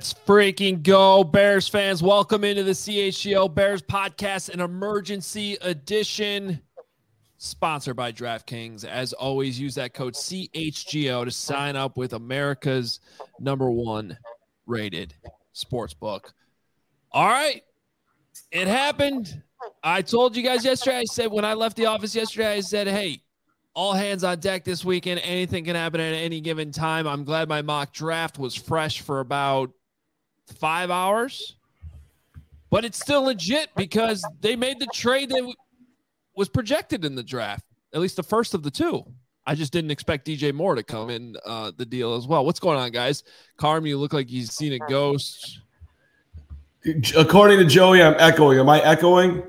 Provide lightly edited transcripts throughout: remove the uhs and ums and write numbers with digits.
Let's freaking go, Bears fans. Welcome into the CHGO Bears podcast, an emergency edition sponsored by DraftKings. As always, use that code CHGO to sign up with America's #1 rated sportsbook. All right, it happened. I told you guys yesterday, I said when I left the office yesterday, I said, hey, all hands on deck this weekend. Anything can happen at any given time. I'm glad my mock draft was fresh for about 5 hours, but it's still legit because they made the trade that was projected in the draft, at least the first of the two. I just didn't expect DJ Moore to come in the deal as well. What's going on, guys? Carm, you look like you've seen a ghost. According to Joey, I'm echoing. Am I echoing?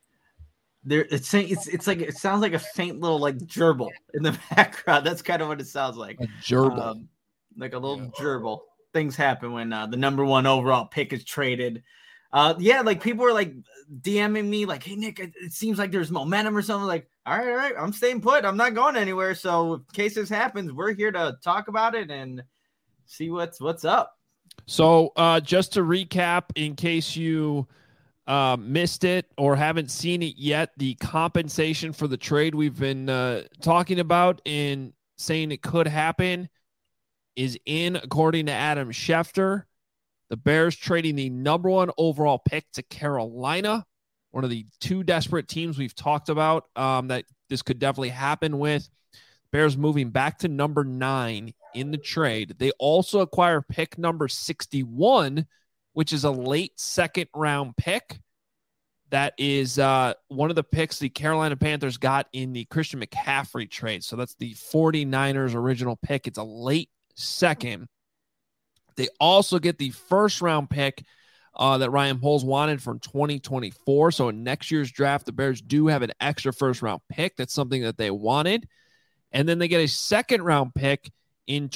It's like it sounds like a faint little like gerbil in the background. That's kind of what it sounds like. A gerbil, like a little gerbil. Things happen when the #1 overall pick is traded. Like people are like DMing me like, hey Nick, it seems like there's momentum or something. Like, all right, I'm staying put. I'm not going anywhere. So in case this happens, we're here to talk about it and see what's up. So just to recap, in case you missed it or haven't seen it yet, the compensation for the trade we've been talking about and saying it could happen is in, according to Adam Schefter. The Bears trading the #1 overall pick to Carolina, one of the two desperate teams we've talked about that this could definitely happen with. Bears moving back to #9 in the trade. They also acquire pick number 61, which is a late second round pick. That is one of the picks the Carolina Panthers got in the Christian McCaffrey trade. So that's the 49ers original pick. It's a late second. They also get the first round pick that Ryan Poles wanted from 2024. So in next year's draft, the Bears do have an extra first round pick. That's something that they wanted. And then they get a second round pick in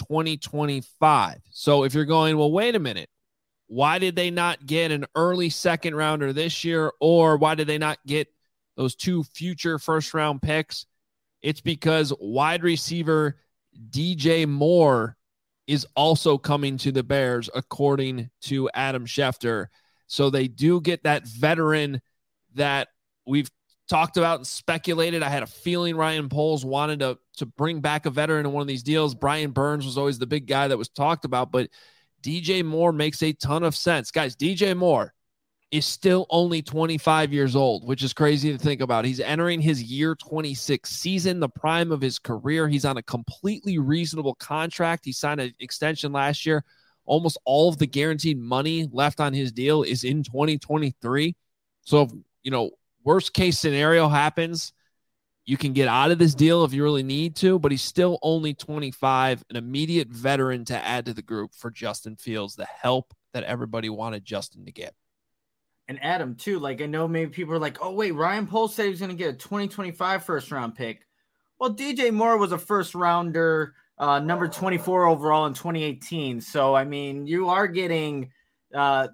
2025. So if you're going, well, wait a minute, why did they not get an early second rounder this year? Or why did they not get those two future first round picks? It's because wide receiver DJ Moore is also coming to the Bears, according to Adam Schefter. So they do get that veteran that we've talked about and speculated. I had a feeling Ryan Poles wanted to bring back a veteran in one of these deals. Brian Burns was always the big guy that was talked about, but DJ Moore makes a ton of sense. Guys, DJ Moore is still only 25 years old, which is crazy to think about. He's entering his year 26 season, the prime of his career. He's on a completely reasonable contract. He signed an extension last year. Almost all of the guaranteed money left on his deal is in 2023. So if, worst case scenario happens, you can get out of this deal if you really need to, but he's still only 25, an immediate veteran to add to the group for Justin Fields, the help that everybody wanted Justin to get. And Adam, too, like I know maybe people are like, oh, wait, Ryan Poles said he was going to get a 2025 first-round pick. Well, DJ Moore was a first-rounder, number 24 overall in 2018. So, I mean, you are getting, a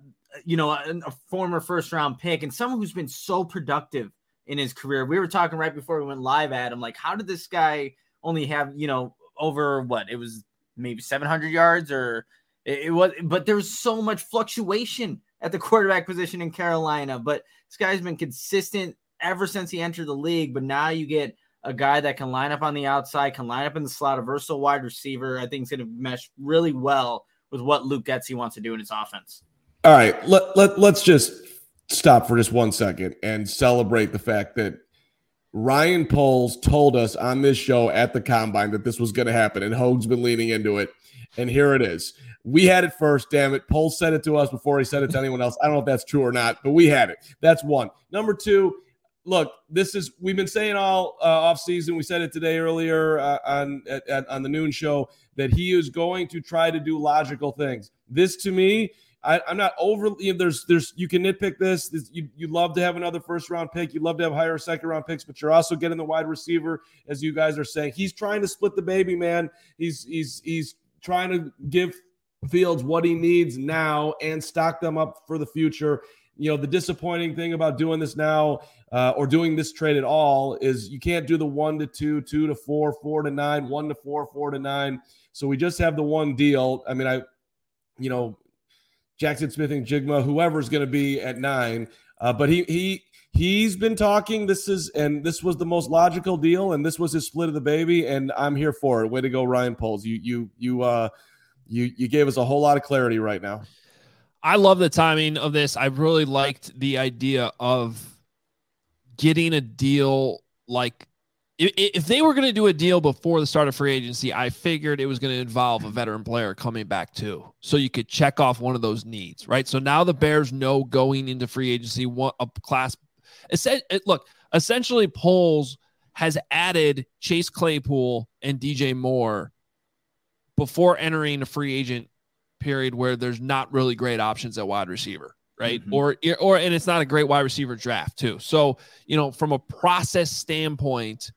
former first-round pick and someone who's been so productive in his career. We were talking right before we went live, Adam, like how did this guy only have, over what? It was maybe 700 yards or it was, but there was so much fluctuation at the quarterback position in Carolina. But this guy's been consistent ever since he entered the league. But now you get a guy that can line up on the outside, can line up in the slot, a versatile wide receiver. I think it's going to mesh really well with what Luke Getsy wants to do in his offense. All right, let's just stop for just 1 second and celebrate the fact that Ryan Poles told us on this show at the Combine that this was going to happen, and Hogue's been leaning into it, and here it is. We had it first, damn it. Poles said it to us before he said it to anyone else. I don't know if that's true or not, but we had it. That's one. Number two, look, we've been saying all offseason. We said it today earlier on the noon show that he is going to try to do logical things. This, to me, I'm not overly. There's you can nitpick this. You love to have another first round pick. You love to have higher second round picks, but you're also getting the wide receiver, as you guys are saying. He's trying to split the baby, man. He's trying to give Fields what he needs now and stock them up for the future. The disappointing thing about doing this now or doing this trade at all is you can't do the 1 to 2, 2 to 4, 4 to 9, 1 to 4, 4 to 9. So we just have the one deal. I mean, Jackson Smith-Njigba, whoever's going to be at 9. But he's been talking. This was the most logical deal, and this was his split of the baby, and I'm here for it. Way to go, Ryan Poles. You gave us a whole lot of clarity right now. I love the timing of this. I really liked the idea of getting a deal like if they were going to do a deal before the start of free agency, I figured it was going to involve a veteran player coming back too. So you could check off one of those needs, right? So now the Bears know going into free agency, what a class. Look, essentially Poles has added Chase Claypool and DJ Moore before entering a free agent period where there's not really great options at wide receiver. Right. Mm-hmm. And it's not a great wide receiver draft too. So, from a process standpoint,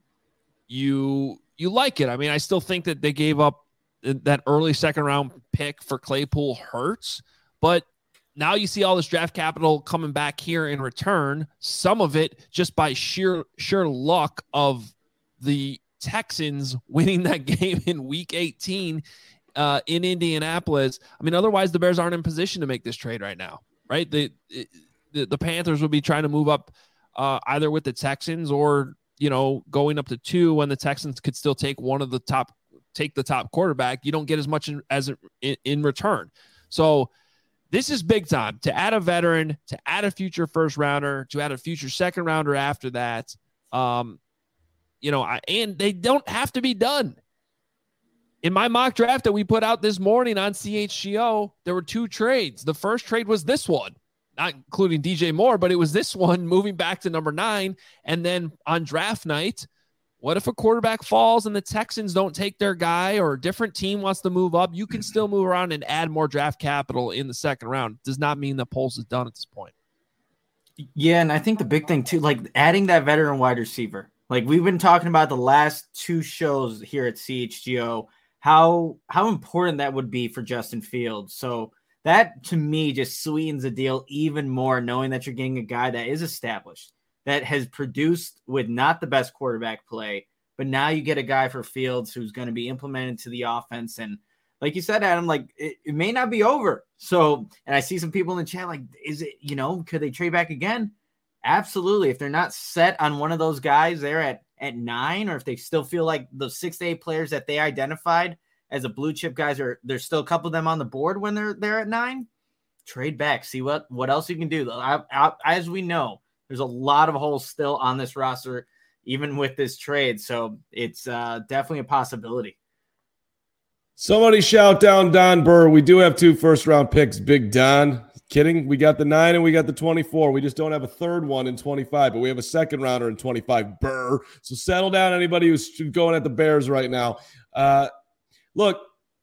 you like it. I mean, I still think that they gave up that early second round pick for Claypool hurts, but now you see all this draft capital coming back here in return, some of it just by sheer luck of the Texans winning that game in week 18 in Indianapolis. I mean, otherwise the Bears aren't in position to make this trade right now. Right. The Panthers would be trying to move up either with the Texans or, going up to 2 when the Texans could still take the top quarterback. You don't get as much in return. So this is big time to add a veteran, to add a future first rounder, to add a future second rounder after that. And they don't have to be done. In my mock draft that we put out this morning on CHGO, there were 2 trades. The first trade was this one, not including DJ Moore, but it was this one moving back to number 9. And then on draft night, what if a quarterback falls and the Texans don't take their guy or a different team wants to move up? You can still move around and add more draft capital in the second round. Does not mean the Poles is done at this point. Yeah, and I think the big thing too, like adding that veteran wide receiver. Like we've been talking about the last 2 shows here at CHGO, how important that would be for Justin Fields. So that to me just sweetens the deal even more, knowing that you're getting a guy that is established, that has produced with not the best quarterback play, but now you get a guy for Fields who's going to be implemented to the offense. And like you said, Adam, like it may not be over. So, and I see some people in the chat, like, is it, could they trade back again? Absolutely. If they're not set on one of those guys there at 9, or if they still feel like the 6 to 8 players that they identified as a blue chip guys there's still a couple of them on the board when they're there at 9, trade back, see what else you can do. As we know, there's a lot of holes still on this roster, even with this trade. So it's definitely a possibility. Somebody shout down Don Burr. We do have 2 first-round picks, Big Don. Kidding. We got the 9 and we got the 24. We just don't have a third one in 25, but we have a second rounder in 25, Burr. So settle down, anybody who's going at the Bears right now. Look,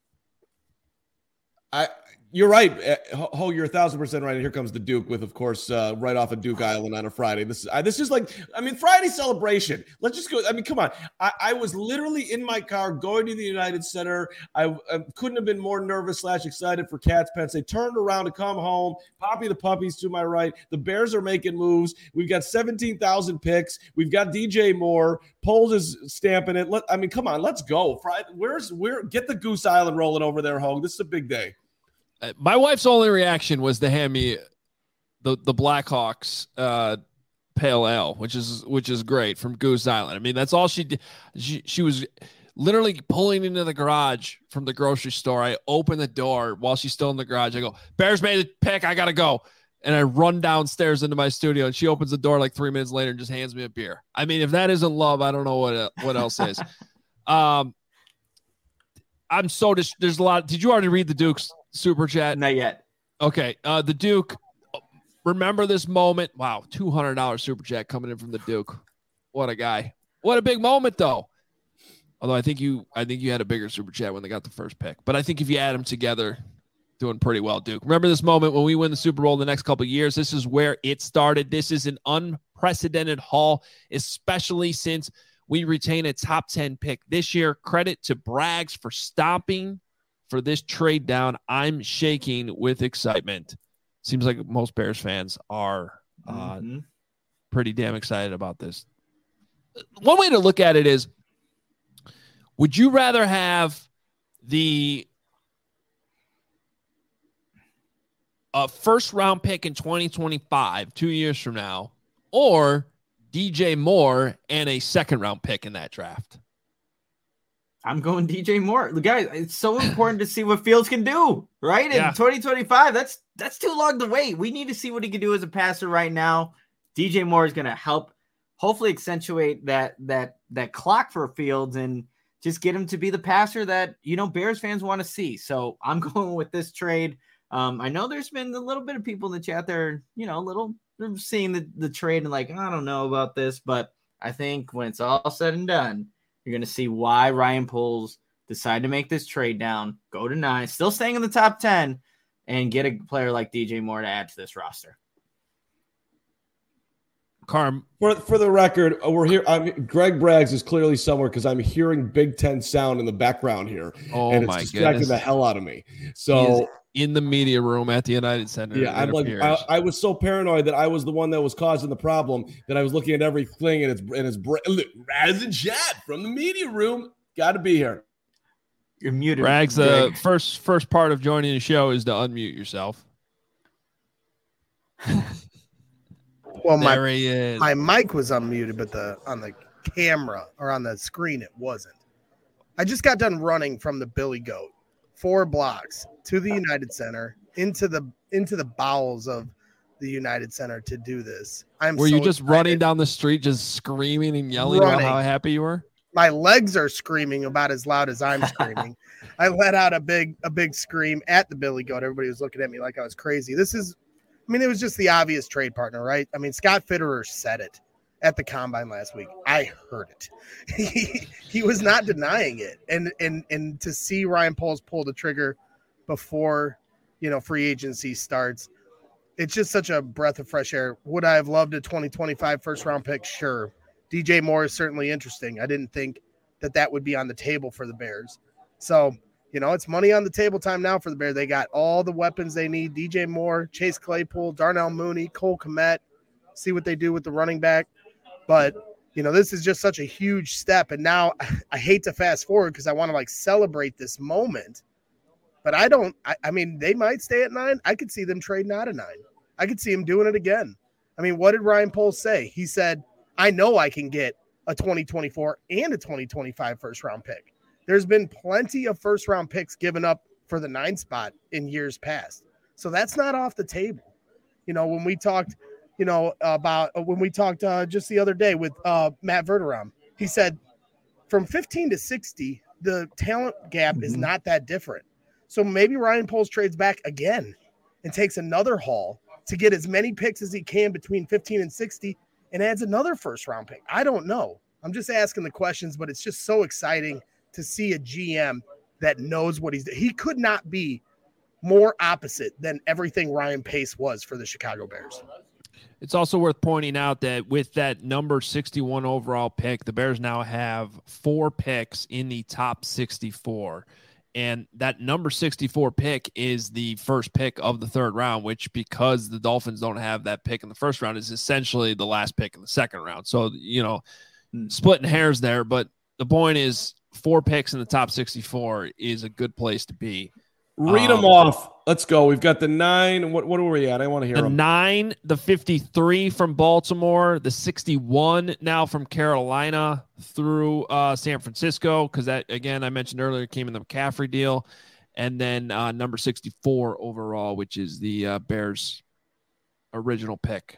you're right. You're 1,000% right. And here comes the Duke with, of course, right off of Duke Island on a Friday. This is like, Friday celebration. Let's just go. Come on. I was literally in my car going to the United Center. I couldn't have been more nervous / excited for Cats Pence. They turned around to come home. Poppy the Puppies to my right. The Bears are making moves. We've got 17,000 picks. We've got DJ Moore. Poles is stamping it. Come on. Let's go. Friday. Get the Goose Island rolling over there, Hogue. This is a big day. My wife's only reaction was to hand me the Blackhawks pale ale, which is great from Goose Island. I mean, that's all she did. She was literally pulling into the garage from the grocery store. I open the door while she's still in the garage. I go, Bears made a pick. I got to go. And I run downstairs into my studio, and she opens the door like 3 minutes later and just hands me a beer. I mean, if that isn't love, I don't know what else is. I'm so there's a lot. Did you already read the Duke's super chat? Not yet. Okay. The Duke, remember this moment. Wow. $200 super chat coming in from the Duke. What a guy. What a big moment though. Although I think you had a bigger super chat when they got the first pick, but I think if you add them together, doing pretty well, Duke. Remember this moment when we win the Super Bowl the next couple of years. This is where it started. This is an unprecedented haul, especially since we retain a top 10 pick this year. Credit to Braggs for stomping for this trade down. I'm shaking with excitement. Seems like most Bears fans are pretty damn excited about this. One way to look at it is, would you rather have the a first round pick in 2025, 2 years from now, or DJ Moore and a second round pick in that draft? I'm going DJ Moore. Guys, it's so important to see what Fields can do, right? Yeah. In 2025, that's too long to wait. We need to see what he can do as a passer right now. DJ Moore is going to help hopefully accentuate that clock for Fields and just get him to be the passer that, Bears fans want to see. So I'm going with this trade. I know there's been a little bit of people in the chat there, they're seeing the trade and like, I don't know about this, but I think when it's all said and done, you're going to see why Ryan Poles decided to make this trade down, go to 9, still staying in the top 10, and get a player like DJ Moore to add to this roster. Carm, for the record, we're here. Greg Braggs is clearly somewhere because I'm hearing Big Ten sound in the background here, and it's distracting the hell out of me. So in the media room at the United Center, yeah, I'm like, I was so paranoid that I was the one that was causing the problem that I was looking at everything, and it's Raz and Chad from the media room. Got to be here. You're muted. Braggs, the first part of joining the show is to unmute yourself. Well, my mic was unmuted, but on the camera or on the screen it wasn't. I just got done running from the Billy Goat 4 blocks to the United Center into the bowels of the United Center to do this. Were you just running down the street, just screaming and yelling about how happy you were? My legs are screaming about as loud as I'm screaming. I let out a big scream at the Billy Goat. Everybody was looking at me like I was crazy. It was just the obvious trade partner, right? I mean, Scott Fitterer said it at the combine last week. I heard it. He was not denying it. And to see Ryan Poles pull the trigger before, free agency starts, it's just such a breath of fresh air. Would I have loved a 2025 first round pick? Sure. DJ Moore is certainly interesting. I didn't think that would be on the table for the Bears. So, it's money on the table time now for the Bears. They got all the weapons they need. DJ Moore, Chase Claypool, Darnell Mooney, Cole Kmet. See what they do with the running back. But, this is just such a huge step. And now I hate to fast forward because I want to celebrate this moment. But I mean, they might stay at 9. I could see them trading out of 9. I could see him doing it again. I mean, what did Ryan Poles say? He said, I know I can get a 2024 and a 2025 first round pick. There's been plenty of first round picks given up for the 9 spot in years past. So that's not off the table. When we talked, just the other day with Matt Verderam, he said from 15 to 60, the talent gap is not that different. So maybe Ryan Poles trades back again and takes another haul to get as many picks as he can between 15 and 60 and adds another first round pick. I don't know. I'm just asking the questions, but it's just so exciting to see a GM that knows what he's doing. He could not be more opposite than everything Ryan Pace was for the Chicago Bears. It's also worth pointing out that with that number 61 overall pick, the Bears now have 4 picks in the top 64. And that number 64 pick is the first pick of the 3rd round, which, because the Dolphins don't have that pick in the 1st round, is essentially the last pick in the 2nd round. So, splitting hairs there. But the point is, 4 picks in the top 64 is a good place to be. Read them off. Let's go. We've got the 9. What are we at? I want to hear the them. 9, the 53 from Baltimore, the 61 now from Carolina through San Francisco, because that, again, I mentioned earlier, came in the McCaffrey deal, and then number 64 overall, which is the Bears' original pick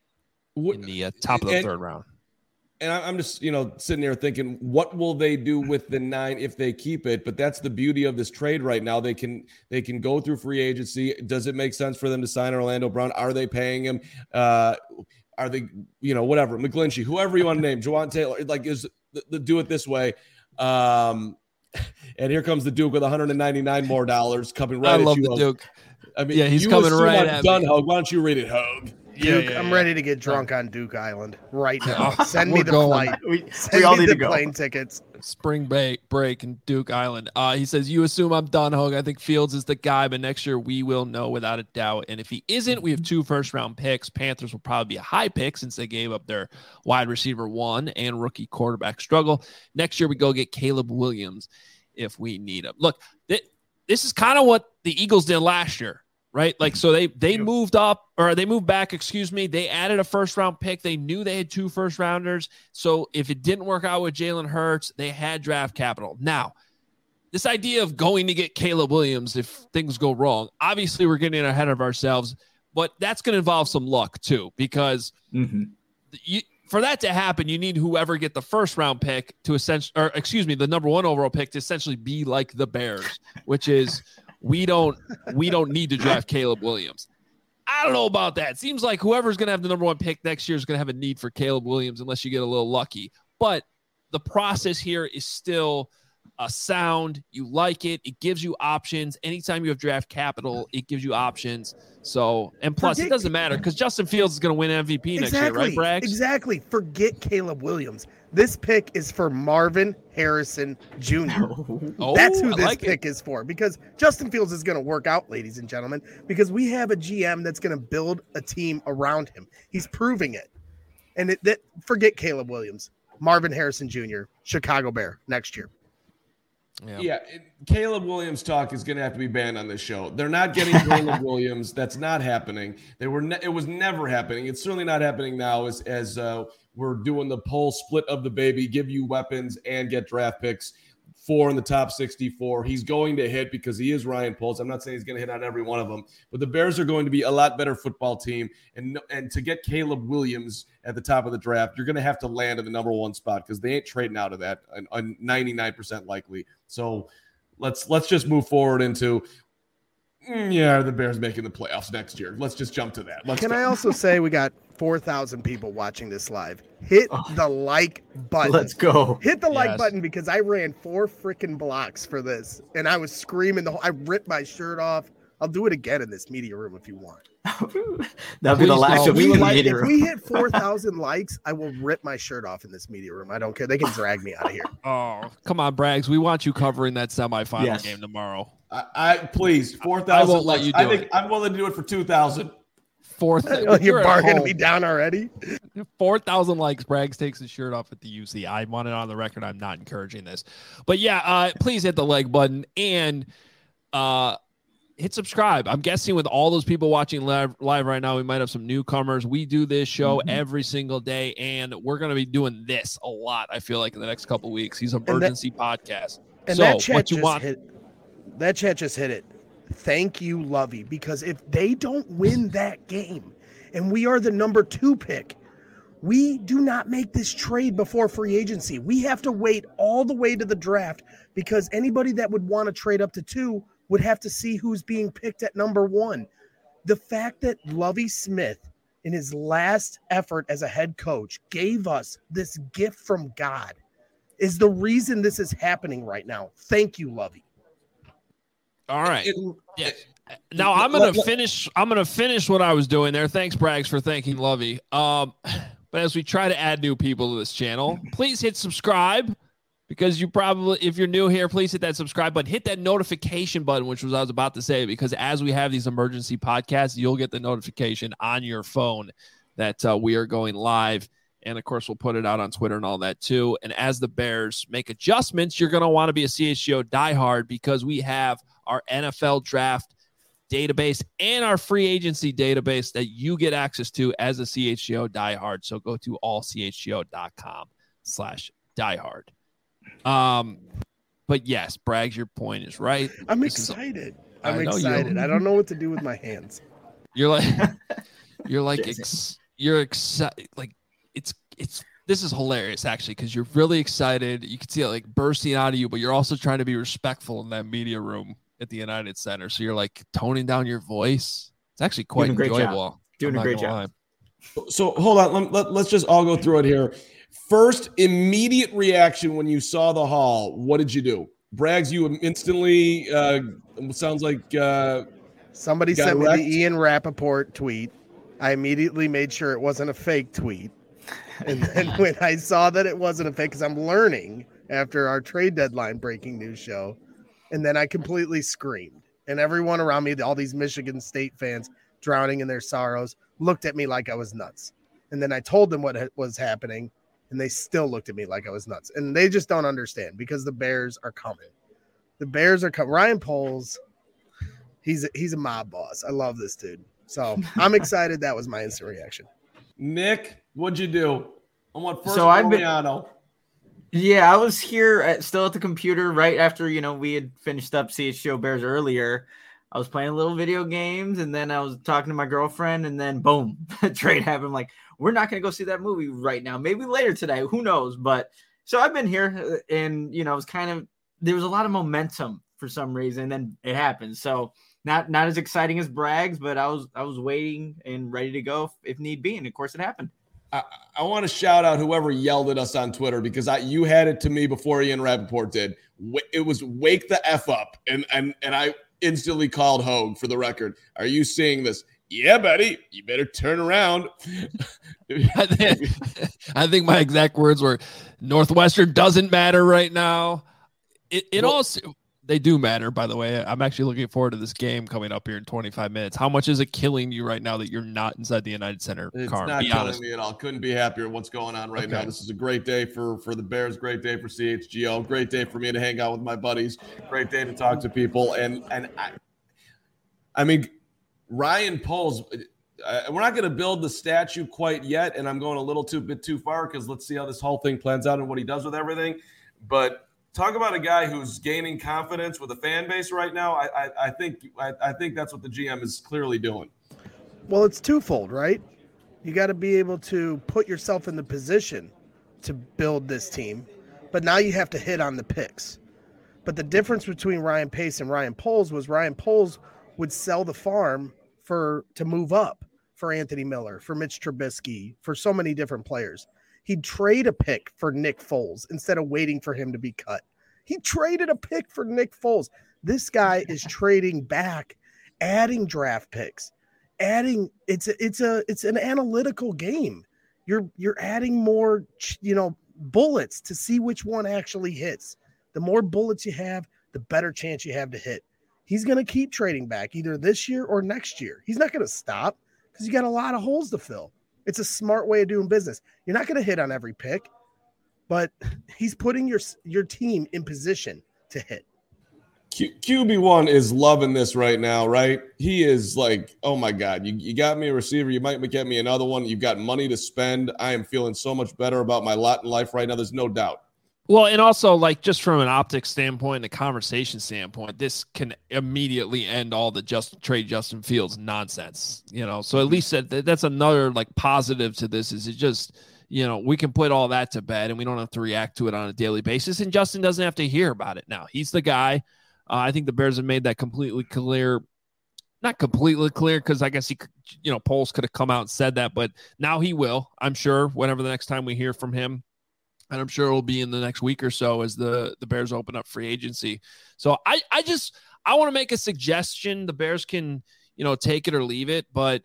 in the top of the 3rd round. And I'm just, sitting here thinking, what will they do with the 9 if they keep it? But that's the beauty of this trade right now. They can go through free agency. Does it make sense for them to sign Orlando Brown? Are they paying him? Are they, whatever, McGlinchey, whoever you want to name, Jawan Taylor, is the do it this way. And here comes the Duke with $199 more coming right at you. I love the Duke. I mean, yeah, he's coming right at me. Hogue. Why don't you read it, Hogue? Duke, I'm ready to get drunk on Duke Island right now. Send me the flight. We all need to go. Plane tickets. Spring break in Duke Island. He says, you assume I'm done, Hogue. I think Fields is the guy, but next year we will know without a doubt. And if he isn't, we have 2 first-round picks. Panthers will probably be a high pick since they gave up their wide receiver 1 and rookie quarterback struggle. Next year we go get Caleb Williams if we need him. Look, this is kind of what the Eagles did last year. right? Like, so they moved up, or they moved back, excuse me. They added a first round pick. They knew they had 2 first rounders. So if it didn't work out with Jalen Hurts, they had draft capital. Now, this idea of going to get Caleb Williams if things go wrong, obviously we're getting ahead of ourselves, but that's going to involve some luck too, because for that to happen, you need whoever get the first round pick to the number 1 overall pick to essentially be like the Bears, which is we don't need to draft Caleb Williams. I don't know about that. Seems like whoever's going to have the number 1 pick next year is going to have a need for Caleb Williams unless you get a little lucky. But the process here is still sound. You like it. It gives you options. Anytime you have draft capital, it gives you options. So, and plus, it doesn't matter because Justin Fields is going to win MVP next year, right, Braggs? Exactly. Forget Caleb Williams. This pick is for Marvin Harrison Jr. That's who this pick is for, because Justin Fields is going to work out, ladies and gentlemen, because we have a GM that's going to build a team around him. He's proving it. And forget Caleb Williams. Marvin Harrison Jr., Chicago Bear next year. Yeah, Caleb Williams talk is going to have to be banned on this show. They're not getting Caleb Williams. That's not happening. It was never happening. It's certainly not happening now as we're doing the poll split of the baby, give you weapons and get draft picks. 4 in the top 64. He's going to hit because he is Ryan Poles. I'm not saying he's going to hit on every one of them, but the Bears are going to be a lot better football team. And to get Caleb Williams at the top of the draft, you're going to have to land in the number 1 spot because they ain't trading out of that. 99% likely. So let's just move forward into the Bears making the playoffs next year. Let's just jump to that. I also say we got 4,000 people watching this live. Hit the like button. Let's go. Hit the like button because I ran 4 freaking blocks for this, and I was screaming I ripped my shirt off. I'll do it again in this media room if you want. That'll be the last of me in the media room. If we hit 4,000 likes, I will rip my shirt off in this media room. I don't care. They can drag me out of here. Oh, come on, Braggs. We want you covering that semifinal game tomorrow. I please 4,000. I won't let you do it. I'm willing to do it for 2,000. 4,000. You're bargaining me down already. 4,000 likes. Braggs takes his shirt off at the UC. I want it on the record. I'm not encouraging this, but please hit the like button and hit subscribe. I'm guessing with all those people watching live right now, we might have some newcomers. We do this show every single day, and we're going to be doing this a lot. I feel like in the next couple of weeks, these emergency podcasts. And so that chat what you want? That chat just hit it. Thank you, Lovey, because if they don't win that game and we are the number 2 pick, we do not make this trade before free agency. We have to wait all the way to the draft because anybody that would want to trade up to 2 would have to see who's being picked at number 1. The fact that Lovey Smith, in his last effort as a head coach, gave us this gift from God is the reason this is happening right now. Thank you, Lovey. All right. Now I'm gonna finish. I'm gonna finish what I was doing there. Thanks, Braggs, for thanking Lovey. But as we try to add new people to this channel, please hit subscribe because if you're new here, please hit that subscribe button. Hit that notification button, which was I was about to say, because as we have these emergency podcasts, you'll get the notification on your phone that we are going live. And, of course, we'll put it out on Twitter and all that, too. And as the Bears make adjustments, you're going to want to be a CHGO diehard because we have our NFL draft database and our free agency database that you get access to as a CHGO diehard. So go to allchgo.com/diehard. But, yes, Braggs, your point is right. I'm excited. I don't know what to do with my hands. You're like excited. Like, this is hilarious actually because you're really excited. You can see it like bursting out of you, but you're also trying to be respectful in that media room at the United Center. So you're like toning down your voice. It's actually quite enjoyable. Doing a great job. So hold on, let's just all go through it here. First, immediate reaction when you saw the haul. What did you do, Braggs? You instantly sounds like somebody sent me the Ian Rappaport tweet. I immediately made sure it wasn't a fake tweet. And then when I saw that it wasn't a fake, because I'm learning after our trade deadline breaking news show, and then I completely screamed. And everyone around me, all these Michigan State fans drowning in their sorrows, looked at me like I was nuts. And then I told them what was happening, and they still looked at me like I was nuts. And they just don't understand because the Bears are coming. The Bears are coming. Ryan Poles, He's a mob boss. I love this dude. So I'm excited. That was my instant reaction. Nick, what'd you do? I want first So I've been- Mariano. Yeah, I was here still at the computer right after, we had finished up CHGO Bears earlier. I was playing little video games, and then I was talking to my girlfriend, and then boom, trade happened. I'm like, we're not going to go see that movie right now. Maybe later today. Who knows? But so I've been here, and, it was there was a lot of momentum for some reason, and then it happened. So not as exciting as Bragg's, but I was waiting and ready to go if need be. And of course it happened. I want to shout out whoever yelled at us on Twitter because you had it to me before Ian Rappaport did. It was wake the F up. And I instantly called Hogue for the record. Are you seeing this? Yeah, buddy, you better turn around. I think my exact words were Northwestern doesn't matter right now. They do matter, by the way. I'm actually looking forward to this game coming up here in 25 minutes. How much is it killing you right now that you're not inside the United Center? It's Carm? not Be killing honest. me at all. Couldn't be happier with what's going on right now. This is a great day for the Bears. Great day for CHGO. Great day for me to hang out with my buddies. Great day to talk to people. And I mean, Ryan Poles. We're not going to build the statue quite yet, and I'm going a little bit too far because let's see how this whole thing plans out and what he does with everything. But talk about a guy who's gaining confidence with a fan base right now. I think that's what the GM is clearly doing. Well, it's twofold, right? You got to be able to put yourself in the position to build this team, but now you have to hit on the picks. But the difference between Ryan Pace and Ryan Poles was Ryan Poles would sell the farm to move up for Anthony Miller, for Mitch Trubisky, for so many different players. He'd trade a pick for Nick Foles instead of waiting for him to be cut. He traded a pick for Nick Foles. This guy is trading back, adding draft picks, it's an analytical game. You're adding more, bullets to see which one actually hits. The more bullets you have, the better chance you have to hit. He's going to keep trading back either this year or next year. He's not going to stop because you got a lot of holes to fill. It's a smart way of doing business. You're not going to hit on every pick, but he's putting your team in position to hit. QB1 is loving this right now, right? He is like, oh my God, you got me a receiver. You might get me another one. You've got money to spend. I am feeling so much better about my lot in life right now. There's no doubt. Well, and also, just from an optics standpoint, a conversation standpoint, this can immediately end all the trade Justin Fields nonsense, So at least that's another positive to this is it just, we can put all that to bed and we don't have to react to it on a daily basis. And Justin doesn't have to hear about it now. He's the guy. I think the Bears have made that completely clear. Not completely clear because I guess he, Poles could have come out and said that, but now he will, I'm sure, whenever the next time we hear from him. And I'm sure it'll be in the next week or so as the Bears open up free agency. So I want to make a suggestion. The Bears can, take it or leave it. But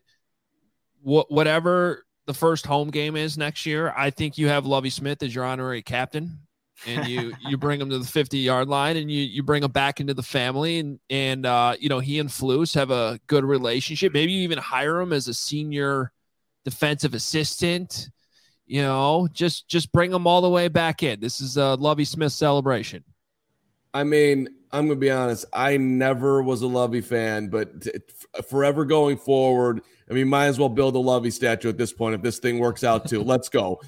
whatever the first home game is next year, I think you have Lovie Smith as your honorary captain. And you bring him to the 50-yard line and you bring him back into the family. And he and Flus have a good relationship. Maybe you even hire him as a senior defensive assistant. Just bring them all the way back in. This is a Lovie Smith celebration. I mean, I'm going to be honest. I never was a Lovie fan, but forever going forward, might as well build a Lovie statue at this point if this thing works out too. Let's go.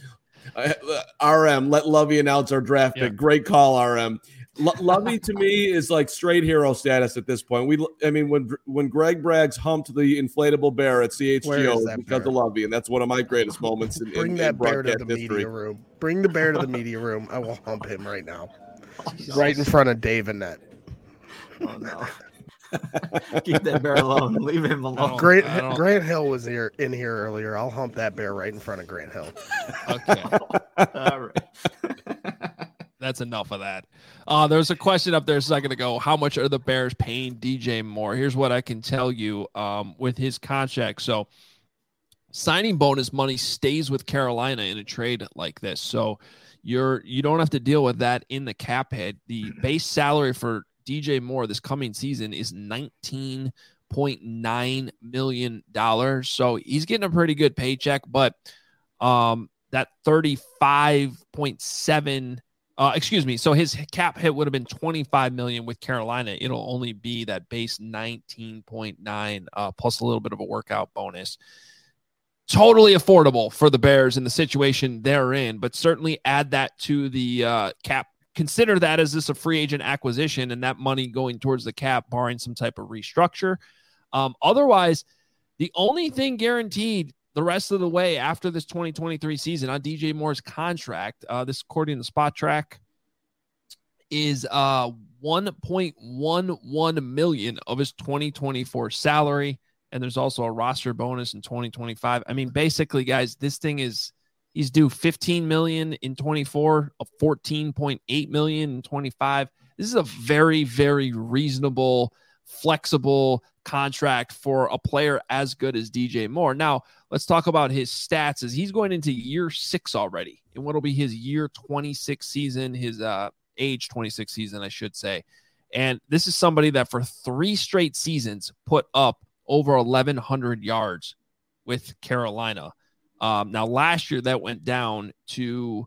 RM, let Lovie announce our draft pick. Great call, RM. Lovie to me is like straight hero status at this point. When Greg Braggs humped the inflatable bear at CHGO because of Lovie, and that's one of my greatest moments in Bring that bear to the history. Media room. Bring the bear to the media room. I will hump him right now, right in front of Dave and Nett. Oh no! Keep that bear alone. Leave him alone. Grant Hill was in here earlier. I'll hump that bear right in front of Grant Hill. Okay. All right. That's enough of that. There's a question up there a second ago. How much are the Bears paying DJ Moore? Here's what I can tell you with his contract. So signing bonus money stays with Carolina in a trade like this. So you don't have to deal with that in the cap head. The base salary for DJ Moore this coming season is $19.9 million. So he's getting a pretty good paycheck, but that 35.7 Excuse me. So his cap hit would have been $25 million with Carolina. It'll only be that base 19.9 plus a little bit of a workout bonus. Totally affordable for the Bears in the situation they're in, but certainly add that to the cap. Consider that as this a free agent acquisition and that money going towards the cap, barring some type of restructure. Otherwise, the only thing guaranteed the rest of the way after this 2023 season on DJ Moore's contract, this according to Spot Track, is $1.11 million of his 2024 salary. And there's also a roster bonus in 2025. I mean, basically, guys, this thing is he's due $15 million in 24, a $14.8 million in 25. This is a very, very reasonable, flexible contract for a player as good as DJ Moore. Now, let's talk about his stats as he's going into year 6 already in what will be his year 26 season, his age 26 season, I should say. And this is somebody that for 3 straight seasons put up over 1,100 yards with Carolina. Now, last year that went down to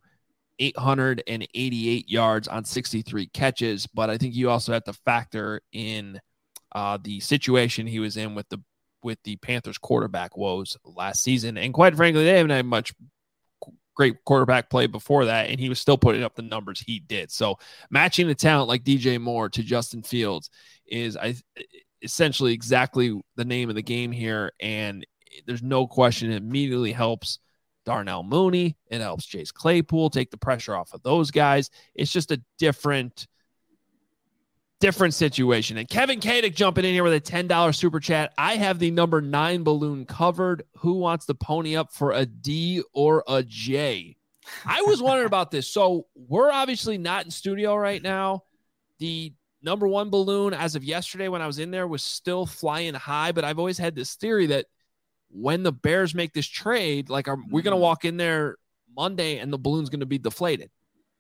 888 yards on 63 catches, but I think you also have to factor in the situation he was in with the Panthers quarterback woes last season. And quite frankly, they haven't had much great quarterback play before that, and he was still putting up the numbers he did. So matching a talent like DJ Moore to Justin Fields is essentially exactly the name of the game here. And there's no question it immediately helps Darnell Mooney. It helps Chase Claypool take the pressure off of those guys. It's just a different situation. And Kevin Kadick jumping in here with a $10 super chat. I have the number 9 balloon covered. Who wants to pony up for a D or a J? I was wondering about this. So we're obviously not in studio right now. The number 1 balloon as of yesterday when I was in there was still flying high, but I've always had this theory that when the Bears make this trade, like we're going to walk in there Monday and the balloon's going to be deflated.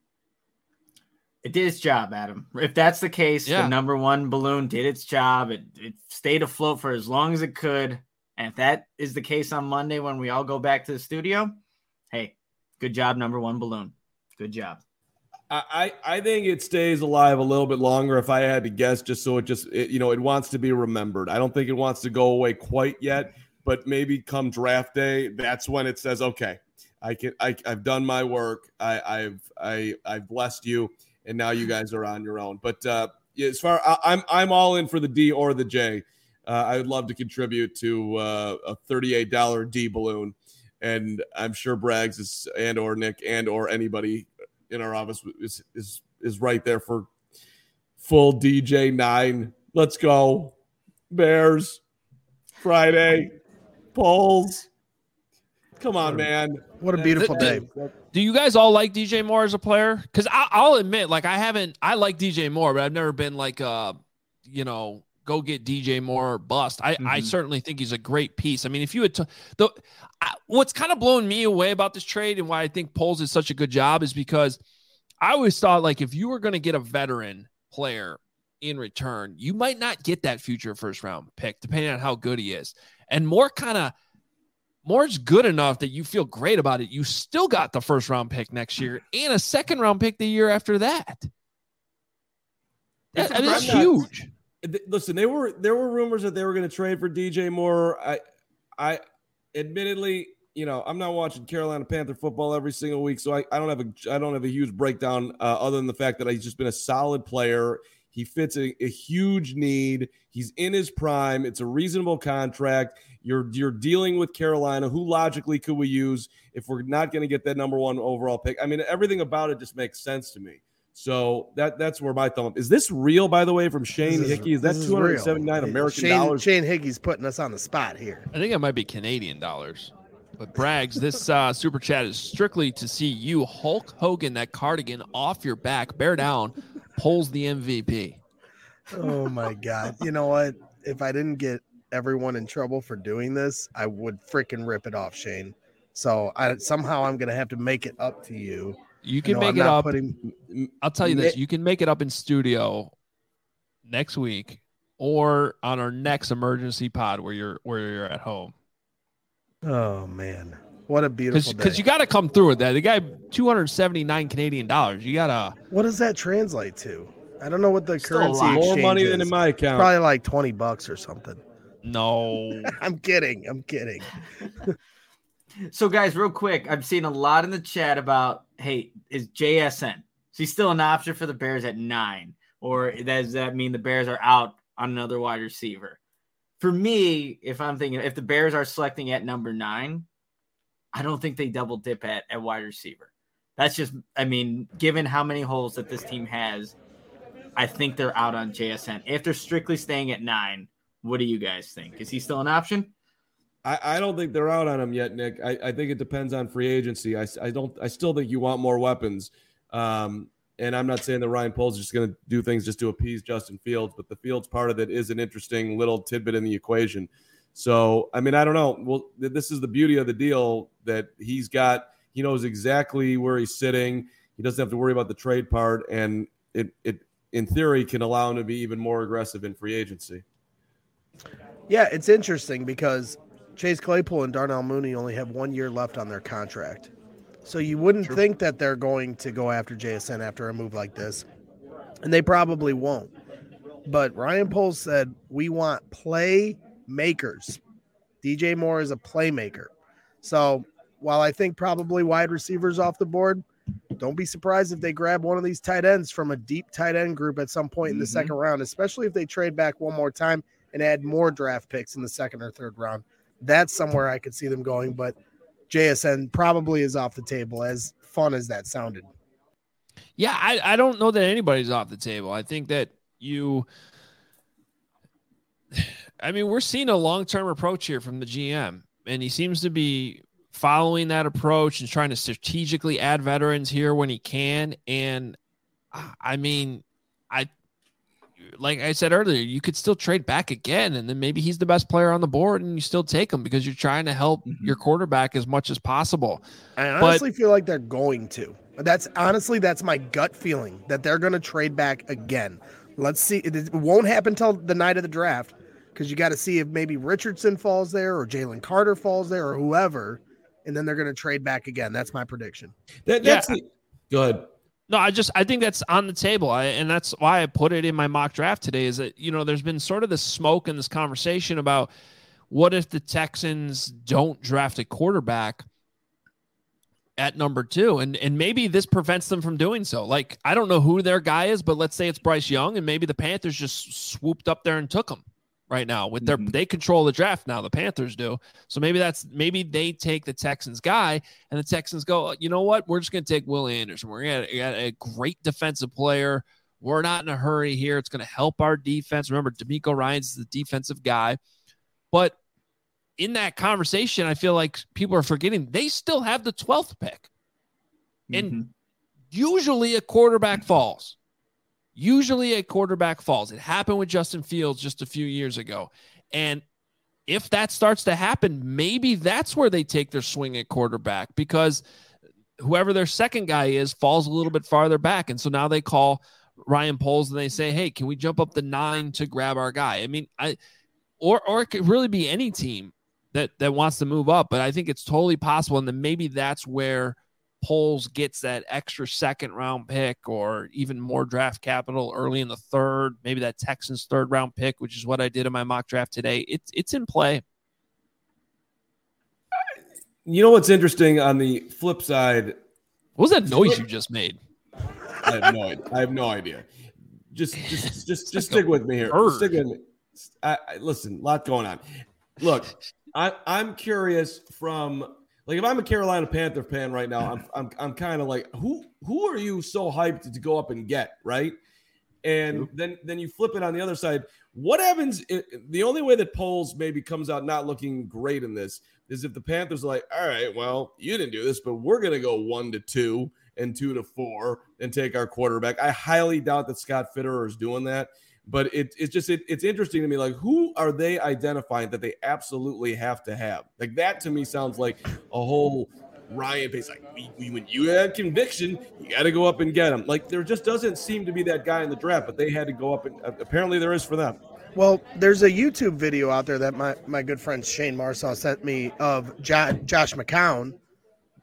It did its job, Adam. If that's the case, the number 1 balloon did its job. It stayed afloat for as long as it could. And if that is the case on Monday when we all go back to the studio, hey, good job, number 1 balloon. Good job. I think it stays alive a little bit longer if I had to guess, just so it wants to be remembered. I don't think it wants to go away quite yet, but maybe come draft day, that's when it says, okay, I've done my work. I've blessed you. And now you guys are on your own. But as far I'm all in for the D or the J. I would love to contribute to a $38 D balloon, and I'm sure Braggs or Nick or anybody in our office is right there for full DJ 9. Let's go Bears Friday polls. Come on, man. What a beautiful day. Do you guys all like DJ Moore as a player? Because I'll admit, like I like DJ Moore, but I've never been like, go get DJ Moore or bust. I certainly think he's a great piece. I mean, if you had what's kind of blown me away about this trade and why I think Poles is such a good job is because I always thought like if you were going to get a veteran player in return, you might not get that future first round pick depending on how good he is. And Moore's good enough that you feel great about it. You still got the first round pick next year and a second round pick the year after that. That's huge. Listen, there were rumors that they were going to trade for DJ Moore. I admittedly, I'm not watching Carolina Panther football every single week, so I don't have a huge breakdown other than the fact that he's just been a solid player. He fits a huge need. He's in his prime. It's a reasonable contract. You're dealing with Carolina. Who logically could we use if we're not going to get that number 1 overall pick? I mean, everything about it just makes sense to me. So that's where my thumb up. Is this real, by the way, from Shane Hickey? Is that $279 American dollars? Shane Hickey's putting us on the spot here. I think it might be Canadian dollars. But Braggs, this super chat is strictly to see you, Hulk Hogan, that cardigan off your back, bear down, pulls the MVP. Oh, my God. You know what? If I didn't get everyone in trouble for doing this, I would freaking rip it off, Shane. So somehow I'm going to have to make it up to you. You can make it up. I'll tell you this. You can make it up in studio next week or on our next emergency pod where you're at home. Oh, man. What a beautiful day. Because you got to come through with that. The guy, 279 Canadian dollars. You got to. What does that translate to? I don't know what the Still a currency lot. More exchange money is. than in my account. Probably like $20 or something. No. I'm kidding. So, guys, real quick, I've seen a lot in the chat about, hey, is JSN? Is he still an option for the Bears at 9? Or does that mean the Bears are out on another wide receiver? For me, if I'm thinking, if the Bears are selecting at number 9, I don't think they double dip at wide receiver. That's just, I mean, given how many holes that this team has, I think they're out on JSN. If they're strictly staying at 9, what do you guys think? Is he still an option? I don't think they're out on him yet, Nick. I think it depends on free agency. I still think you want more weapons. And I'm not saying that Ryan Poles is just going to do things just to appease Justin Fields, but the Fields part of it is an interesting little tidbit in the equation. So, I mean, I don't know. Well, this is the beauty of the deal that he knows exactly where he's sitting. He doesn't have to worry about the trade part, and it in theory can allow him to be even more aggressive in free agency. Yeah, it's interesting because Chase Claypool and Darnell Mooney only have 1 year left on their contract. So you wouldn't think that they're going to go after JSN after a move like this. And they probably won't. But Ryan Poles said, we want playmakers. DJ Moore is a playmaker. So while I think probably wide receivers off the board, don't be surprised if they grab one of these tight ends from a deep tight end group at some point in the second round, especially if they trade back one more time and add more draft picks in the second or third round. That's somewhere I could see them going, but JSN probably is off the table, as fun as that sounded. Yeah, I don't know that anybody's off the table. I think that we're seeing a long-term approach here from the GM, and he seems to be following that approach and trying to strategically add veterans here when he can. And I mean, like I said earlier, you could still trade back again, and then maybe he's the best player on the board and you still take him because you're trying to help your quarterback as much as possible. I honestly feel like they're going to. That's my gut feeling that they're going to trade back again. Let's see. It won't happen till the night of the draft because you got to see if maybe Richardson falls there or Jalen Carter falls there or whoever, and then they're going to trade back again. That's my prediction. Go ahead. No, I think that's on the table. And that's why I put it in my mock draft today is that, there's been sort of this smoke in this conversation about what if the Texans don't draft a quarterback at number 2? And maybe this prevents them from doing so. Like, I don't know who their guy is, but let's say it's Bryce Young, and maybe the Panthers just swooped up there and took him right now with they control the draft now. The Panthers do. So maybe they take the Texans guy and the Texans go, you know what? We're just going to take Will Anderson. We're going to get a great defensive player. We're not in a hurry here. It's going to help our defense. Remember, DeMeco Ryans is the defensive guy. But in that conversation, I feel like people are forgetting they still have the 12th pick. And usually a quarterback falls. It happened with Justin Fields just a few years ago. And if that starts to happen, maybe that's where they take their swing at quarterback because whoever their second guy is falls a little bit farther back. And so now they call Ryan Poles and they say, hey, can we jump up the 9 to grab our guy? I mean, or it could really be any team that wants to move up, but I think it's totally possible. And then maybe that's where Poles gets that extra second round pick or even more draft capital early in the third, maybe that Texans third round pick, which is what I did in my mock draft today. It's in play. You know what's interesting on the flip side? What was that noise you just made? I have no idea. Just stick with me here. Stick with me. Listen, a lot going on. Look, I'm curious from. Like if I'm a Carolina Panther fan right now, I'm kind of like, who are you so hyped to go up and get, right? And then you flip it on the other side. What happens? The only way that Poles maybe comes out not looking great in this is if the Panthers are like, all right, well, you didn't do this, but we're gonna go 1-2 and 2-4 and take our quarterback. I highly doubt that Scott Fitterer is doing that. But it's interesting to me, like, who are they identifying that they absolutely have to have? Like, that to me sounds like a whole Ryan Pace. Like, when you had conviction, you got to go up and get him. Like, there just doesn't seem to be that guy in the draft, but they had to go up, and apparently there is for them. Well, there's a YouTube video out there that my good friend Shane Marsaw sent me of Josh McCown,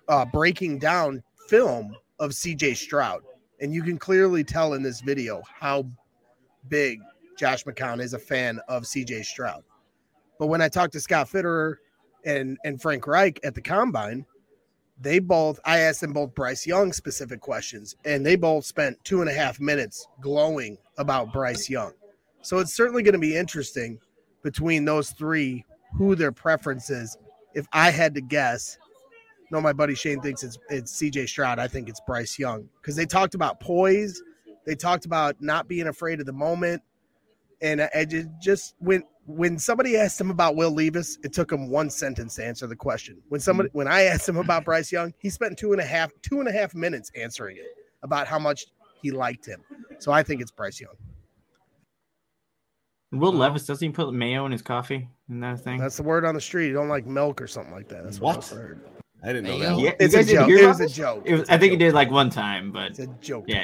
breaking down film of CJ Stroud. And you can clearly tell in this video how big Josh McCown is a fan of CJ Stroud. But when I talked to Scott Fitterer and Frank Reich at the Combine, I asked them both Bryce Young specific questions, and they both spent 2.5 minutes glowing about Bryce Young. So it's certainly going to be interesting between those three, who their preference is. If I had to guess, no, my buddy Shane thinks it's CJ Stroud. I think it's Bryce Young, because they talked about poise. They talked about not being afraid of the moment. And I just when somebody asked him about Will Levis, it took him one sentence to answer the question. When I asked him about Bryce Young, he spent 2.5 minutes answering it about how much he liked him. So I think it's Bryce Young. Will Levis, doesn't he put mayo in his coffee? Isn't that a thing? That's the word on the street. You don't like milk or something like that. That's what I heard. I didn't know that. Yeah, It's a joke. It was a joke. I think he did like one time, but it's a joke. Yeah.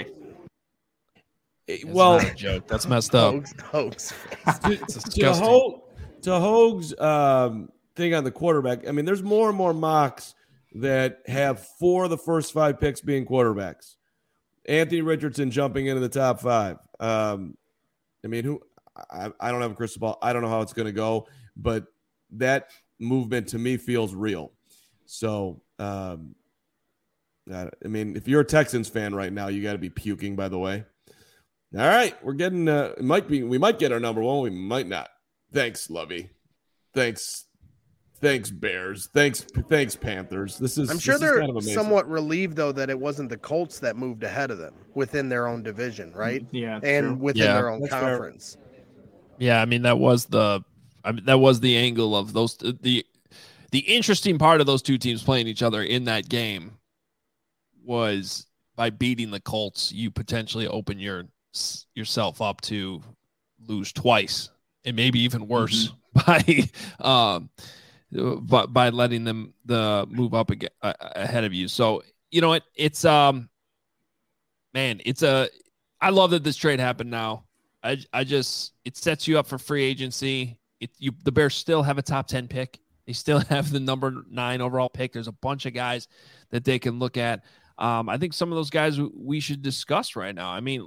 Well, not a joke. That's messed up. Hoax. It's disgusting. To Hoag's thing on the quarterback, I mean, there's more and more mocks that have 4 of the first 5 picks being quarterbacks. Anthony Richardson jumping into the top 5. I mean, I don't have a crystal ball. I don't know how it's going to go, but that movement to me feels real. So, I mean, if you're a Texans fan right now, you got to be puking, by the way. All right, we're getting we might get our number 1, we might not. Thanks, Lovey. Thanks Bears. Thanks Panthers. I'm sure they're kind of somewhat relieved though that it wasn't the Colts that moved ahead of them within their own division, right? Yeah, and true. within their own conference. Fair. Yeah, I mean that was the angle of those. The interesting part of those two teams playing each other in that game was by beating the Colts, you potentially open yourself up to lose twice and maybe even worse by letting them move up again, ahead of you. So you know it's I love that this trade happened now. It sets you up for free agency. The Bears still have a top 10 pick. They still have the number 9 overall pick. There's a bunch of guys that they can look at. I think some of those guys we should discuss right now. I mean,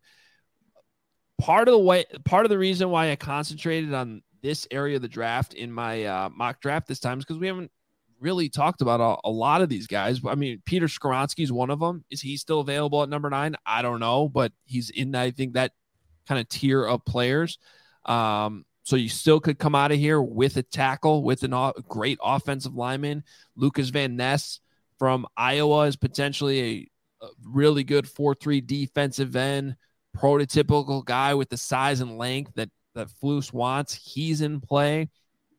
part of the reason why I concentrated on this area of the draft in my mock draft this time is because we haven't really talked about a lot of these guys. I mean, Peter Skoronski is one of them. Is he still available at number 9? I don't know, but he's in, I think, that kind of tier of players. So you still could come out of here with a tackle, with a great offensive lineman. Lucas Van Ness from Iowa is potentially a really good 4-3 defensive end, prototypical guy with the size and length that Flus wants. He's in play.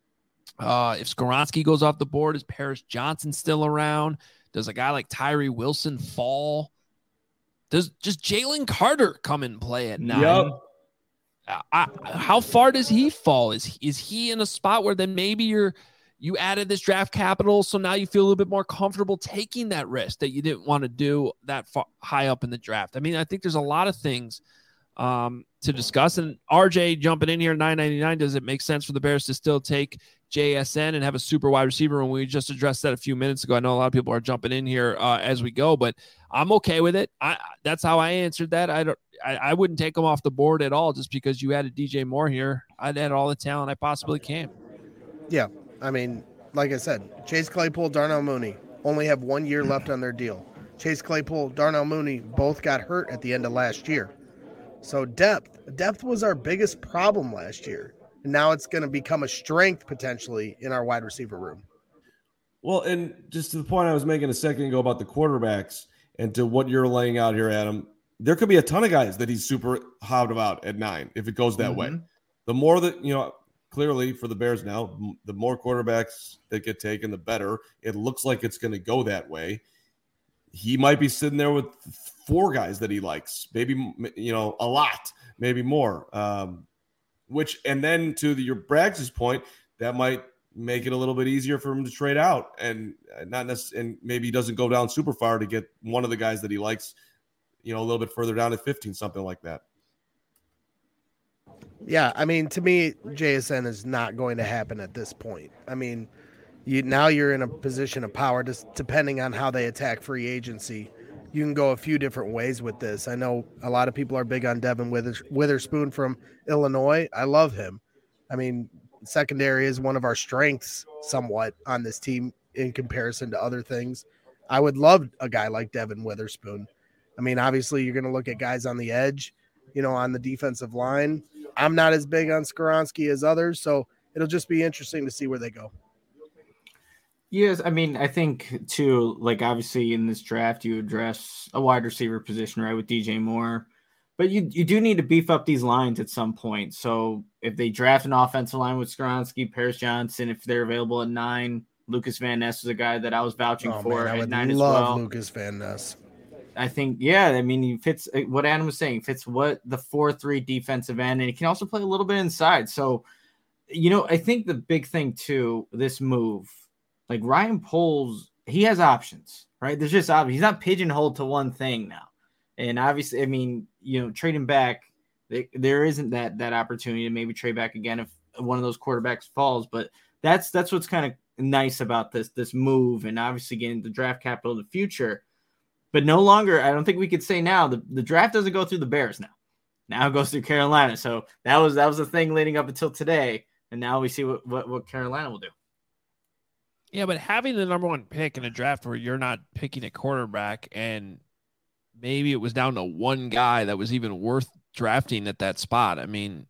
If Skoronski goes off the board, is Paris Johnson still around? Does a guy like Tyree Wilson fall? Does just Jalen Carter come in play at 9? Yep. How far does he fall? Is he in a spot where then maybe you added this draft capital, so now you feel a little bit more comfortable taking that risk that you didn't want to do that far, high up in the draft? I mean, I think there's a lot of things to discuss. And RJ jumping in here, $9.99. Does it make sense for the Bears to still take JSN and have a super wide receiver? And we just addressed that a few minutes ago. I know a lot of people are jumping in here as we go, but I'm okay with it. That's how I answered that. I wouldn't take him off the board at all just because you added DJ Moore here. I'd add all the talent I possibly can. Yeah. I mean, like I said, Chase Claypool, Darnell Mooney only have 1 year left on their deal. Chase Claypool, Darnell Mooney both got hurt at the end of last year. So depth was our biggest problem last year. And now it's going to become a strength potentially in our wide receiver room. Well, and just to the point I was making a second ago about the quarterbacks and to what you're laying out here, Adam, there could be a ton of guys that he's super hot about at 9 if it goes that way. The more that, clearly for the Bears now, the more quarterbacks that get taken, the better. It looks like it's going to go that way. He might be sitting there with 4 guys that he likes, maybe, a lot, maybe more. And then to your Braggs' point, that might make it a little bit easier for him to trade out and not necessarily, and maybe he doesn't go down super far to get one of the guys that he likes, a little bit further down at 15, something like that. Yeah, I mean, to me, JSN is not going to happen at this point. I mean, you're in a position of power, just depending on how they attack free agency. You can go a few different ways with this. I know a lot of people are big on Devin Witherspoon from Illinois. I love him. I mean, secondary is one of our strengths somewhat on this team in comparison to other things. I would love a guy like Devin Witherspoon. I mean, obviously you're going to look at guys on the edge, on the defensive line. I'm not as big on Skoronski as others, so it'll just be interesting to see where they go. Yes, I mean, I think too, like obviously in this draft, you address a wide receiver position, right, with DJ Moore, but you do need to beef up these lines at some point. So if they draft an offensive line with Skoronski, Paris Johnson, if they're available at 9, Lucas Van Ness is a guy that I was vouching for at 9 as well. I love Lucas Van Ness. I think, yeah, I mean, he fits what Adam was saying, fits what the 4-3 defensive end, and he can also play a little bit inside. So, I think the big thing too, this move, like Ryan Poles, he has options, right? There's just options. He's not pigeonholed to one thing now. And obviously, I mean, trading back, there isn't that opportunity to maybe trade back again if one of those quarterbacks falls. But that's what's kind of nice about this move, and obviously getting the draft capital in the future. But no longer, I don't think we could say now the draft doesn't go through the Bears now. Now it goes through Carolina. So that was the thing leading up until today, and now we see what Carolina will do. Yeah, but having the number 1 pick in a draft where you're not picking a quarterback, and maybe it was down to one guy that was even worth drafting at that spot. I mean,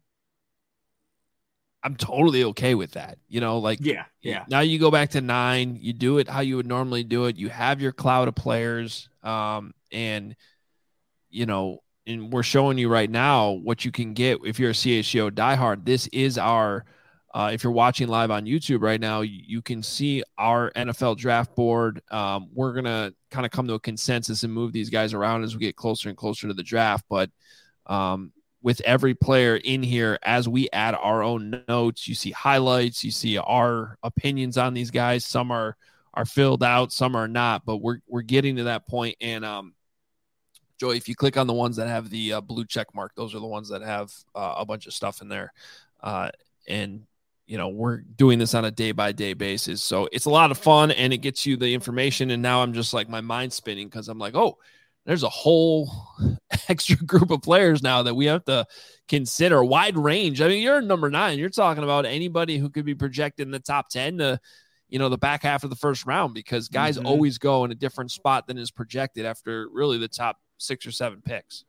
I'm totally okay with that. Yeah. Now you go back to 9, you do it how you would normally do it. You have your cloud of players. And we're showing you right now what you can get if you're a CHGO diehard. This is our, if you're watching live on YouTube right now, you can see our NFL draft board. We're going to kind of come to a consensus and move these guys around as we get closer and closer to the draft. But, with every player in here, as we add our own notes, you see highlights, you see our opinions on these guys. Some are filled out, some are not, but we're getting to that point. And Joey, if you click on the ones that have the blue check mark, those are the ones that have a bunch of stuff in there. And we're doing this on a day-by-day basis. So it's a lot of fun, and it gets you the information. And now I'm just like, my mind's spinning because I'm like, oh, there's a whole extra group of players now that we have to consider. Wide range. I mean, you're number 9. You're talking about anybody who could be projected in the top 10 to, the back half of the first round, because guys always go in a different spot than is projected after really the top 6 or 7 picks.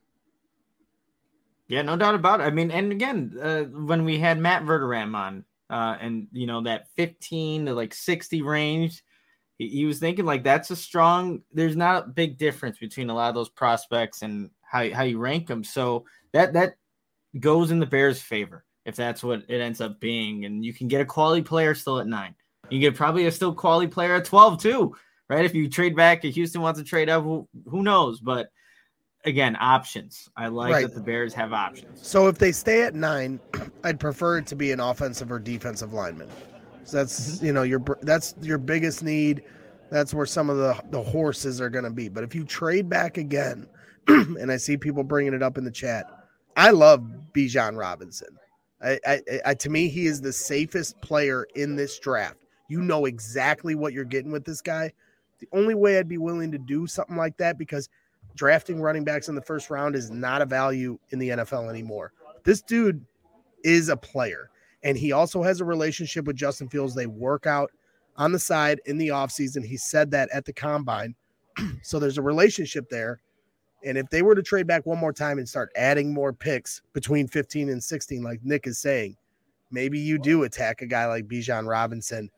Yeah, no doubt about it. I mean, and again, when we had Matt Verderam on, and that 15 to 60 range, he was thinking that's a strong, there's not a big difference between a lot of those prospects and how you rank them. So that goes in the Bears' favor if that's what it ends up being. And you can get a quality player still at 9. You get probably a still quality player at 12 too, right? If you trade back, if Houston wants to trade up, who knows? But again, options. I like that the Bears have options. So if they stay at 9, I'd prefer it to be an offensive or defensive lineman. So that's, that's your biggest need. That's where some of the horses are going to be. But if you trade back again, and I see people bringing it up in the chat, I love Bijan Robinson. To me, he is the safest player in this draft. You know exactly what you're getting with this guy. The only way I'd be willing to do something like that, because drafting running backs in the first round is not a value in the NFL anymore. This dude is a player. And he also has a relationship with Justin Fields. They work out on the side in the offseason. He said that at the combine. So there's a relationship there. And if they were to trade back one more time and start adding more picks between 15 and 16, like Nick is saying, maybe you do attack a guy like Bijan Robinson.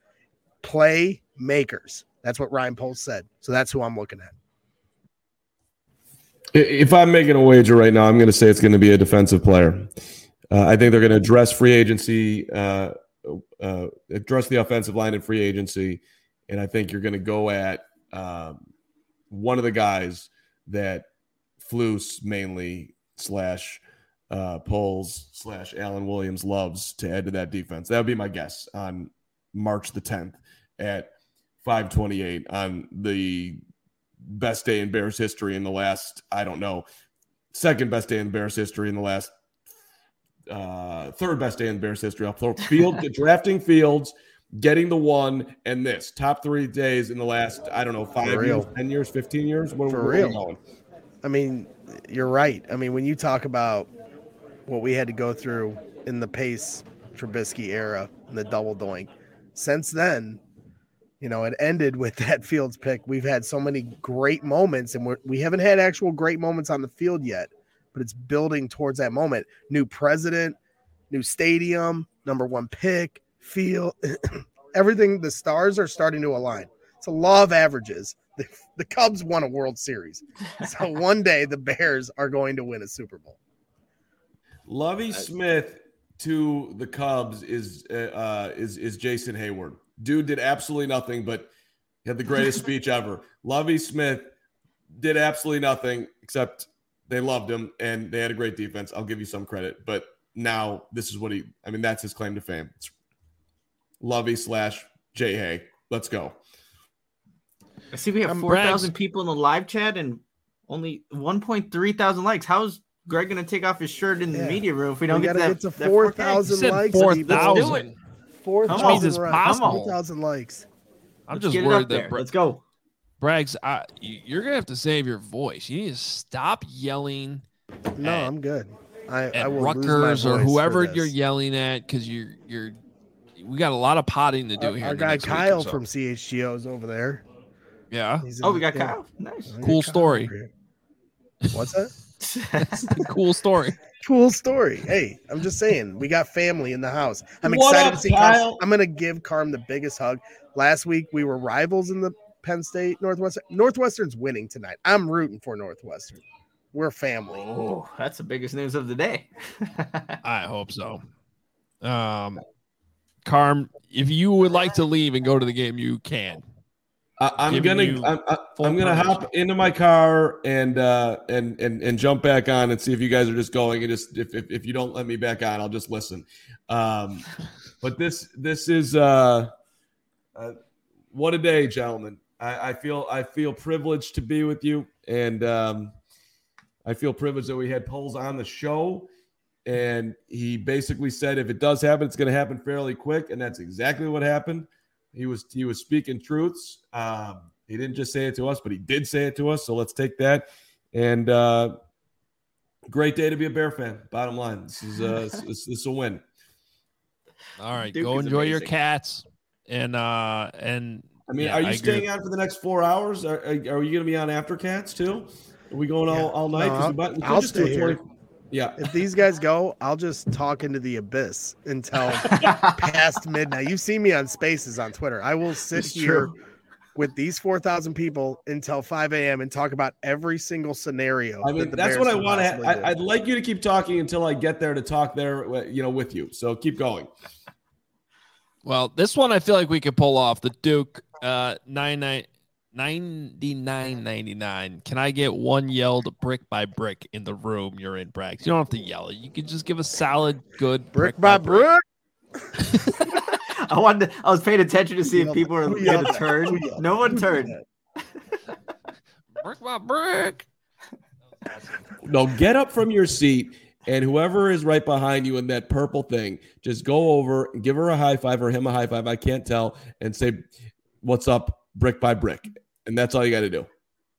Playmakers. That's what Ryan Poles said. So that's who I'm looking at. If I'm making a wager right now, I'm going to say it's going to be a defensive player. I think they're going to address free agency, address the offensive line in free agency, and I think you're going to go at one of the guys that Flus mainly / Poles / Alan Williams loves to add to that defense. That would be my guess on March the 10th at 5:28 on the best day in Bears history in the last, second best day in Bears history in the last, third best day in Bears history. I'll throw drafting Fields getting the one and this top 3 days in the last, I don't know, 5 years, 10 years, 15 years. Where are we going? I mean, you're right. I mean, when you talk about what we had to go through in the Pace Trubisky era and the double doink, since then, it ended with that Fields pick. We've had so many great moments, and we haven't had actual great moments on the field yet, but it's building towards that moment. New president, new stadium, number 1 pick, field, everything. The stars are starting to align. It's a law of averages. The Cubs won a World Series. So one day the Bears are going to win a Super Bowl. Lovie Smith to the Cubs is Jason Hayward. Dude did absolutely nothing, but had the greatest speech ever. Lovie Smith did absolutely nothing except they loved him and they had a great defense. I'll give you some credit, but now this is what that's his claim to fame. It's Lovie / Jay Hay. Let's go. I see we have 4,000 people in the live chat and only 1.3 thousand likes. How's Greg going to take off his shirt in the media room if we don't get to 4,000 likes? 4,000. 4,000 likes. I'm just worried that let's go. Braggs, you're going to have to save your voice. You need to stop yelling. No, I'm good. I will Rutgers or whoever you're yelling at because we got a lot of potting to do here. Our guy Kyle from CHGO is over there. Yeah. We got Kyle. Nice. Cool story. What's that? Cool story. Cool story. Hey, I'm just saying, we got family in the house. I'm excited to see Kyle. I'm going to give Carm the biggest hug. Last week, we were rivals in the Penn State Northwestern. Northwestern's winning tonight. I'm rooting for Northwestern. We're family. Oh, that's the biggest news of the day. I hope so. Carm, if you would like to leave and go to the game, you can. I'm gonna hop into my car and jump back on and see if you guys are just going, and just if you don't let me back on, I'll just listen. But this is what a day, gentlemen. I feel privileged to be with you, and I feel privileged that we had Poles on the show, and he basically said if it does happen, it's going to happen fairly quick, and that's exactly what happened. He was speaking truths. He didn't just say it to us, but he did say it to us. So let's take that. And great day to be a Bear fan. Bottom line, this is a win. All right, Duke, go enjoy your cats. And are you staying on for the next 4 hours? Are you going to be on after Cats too? Are we going all night? No, I'll stay here. Yeah. If these guys go, I'll just talk into the abyss until past midnight. You've seen me on Spaces on Twitter. I will sit here with these 4,000 people until 5 a.m. and talk about every single scenario. That's what I want to. I'd like you to keep talking until I get there to talk there, with you. So keep going. Well, this one I feel like we could pull off. The Duke 99.99. Can I get one yelled brick by brick in the room you're in, Braggs? You don't have to yell it. You can just give a solid, good brick by brick. I was paying attention to see if people were going to turn. No one turned. Brick by brick. No, get up from your seat, and whoever is right behind you in that purple thing, just go over and give her a high five or him a high five. I can't tell, and say, "What's up, brick by brick?" And that's all you got to do.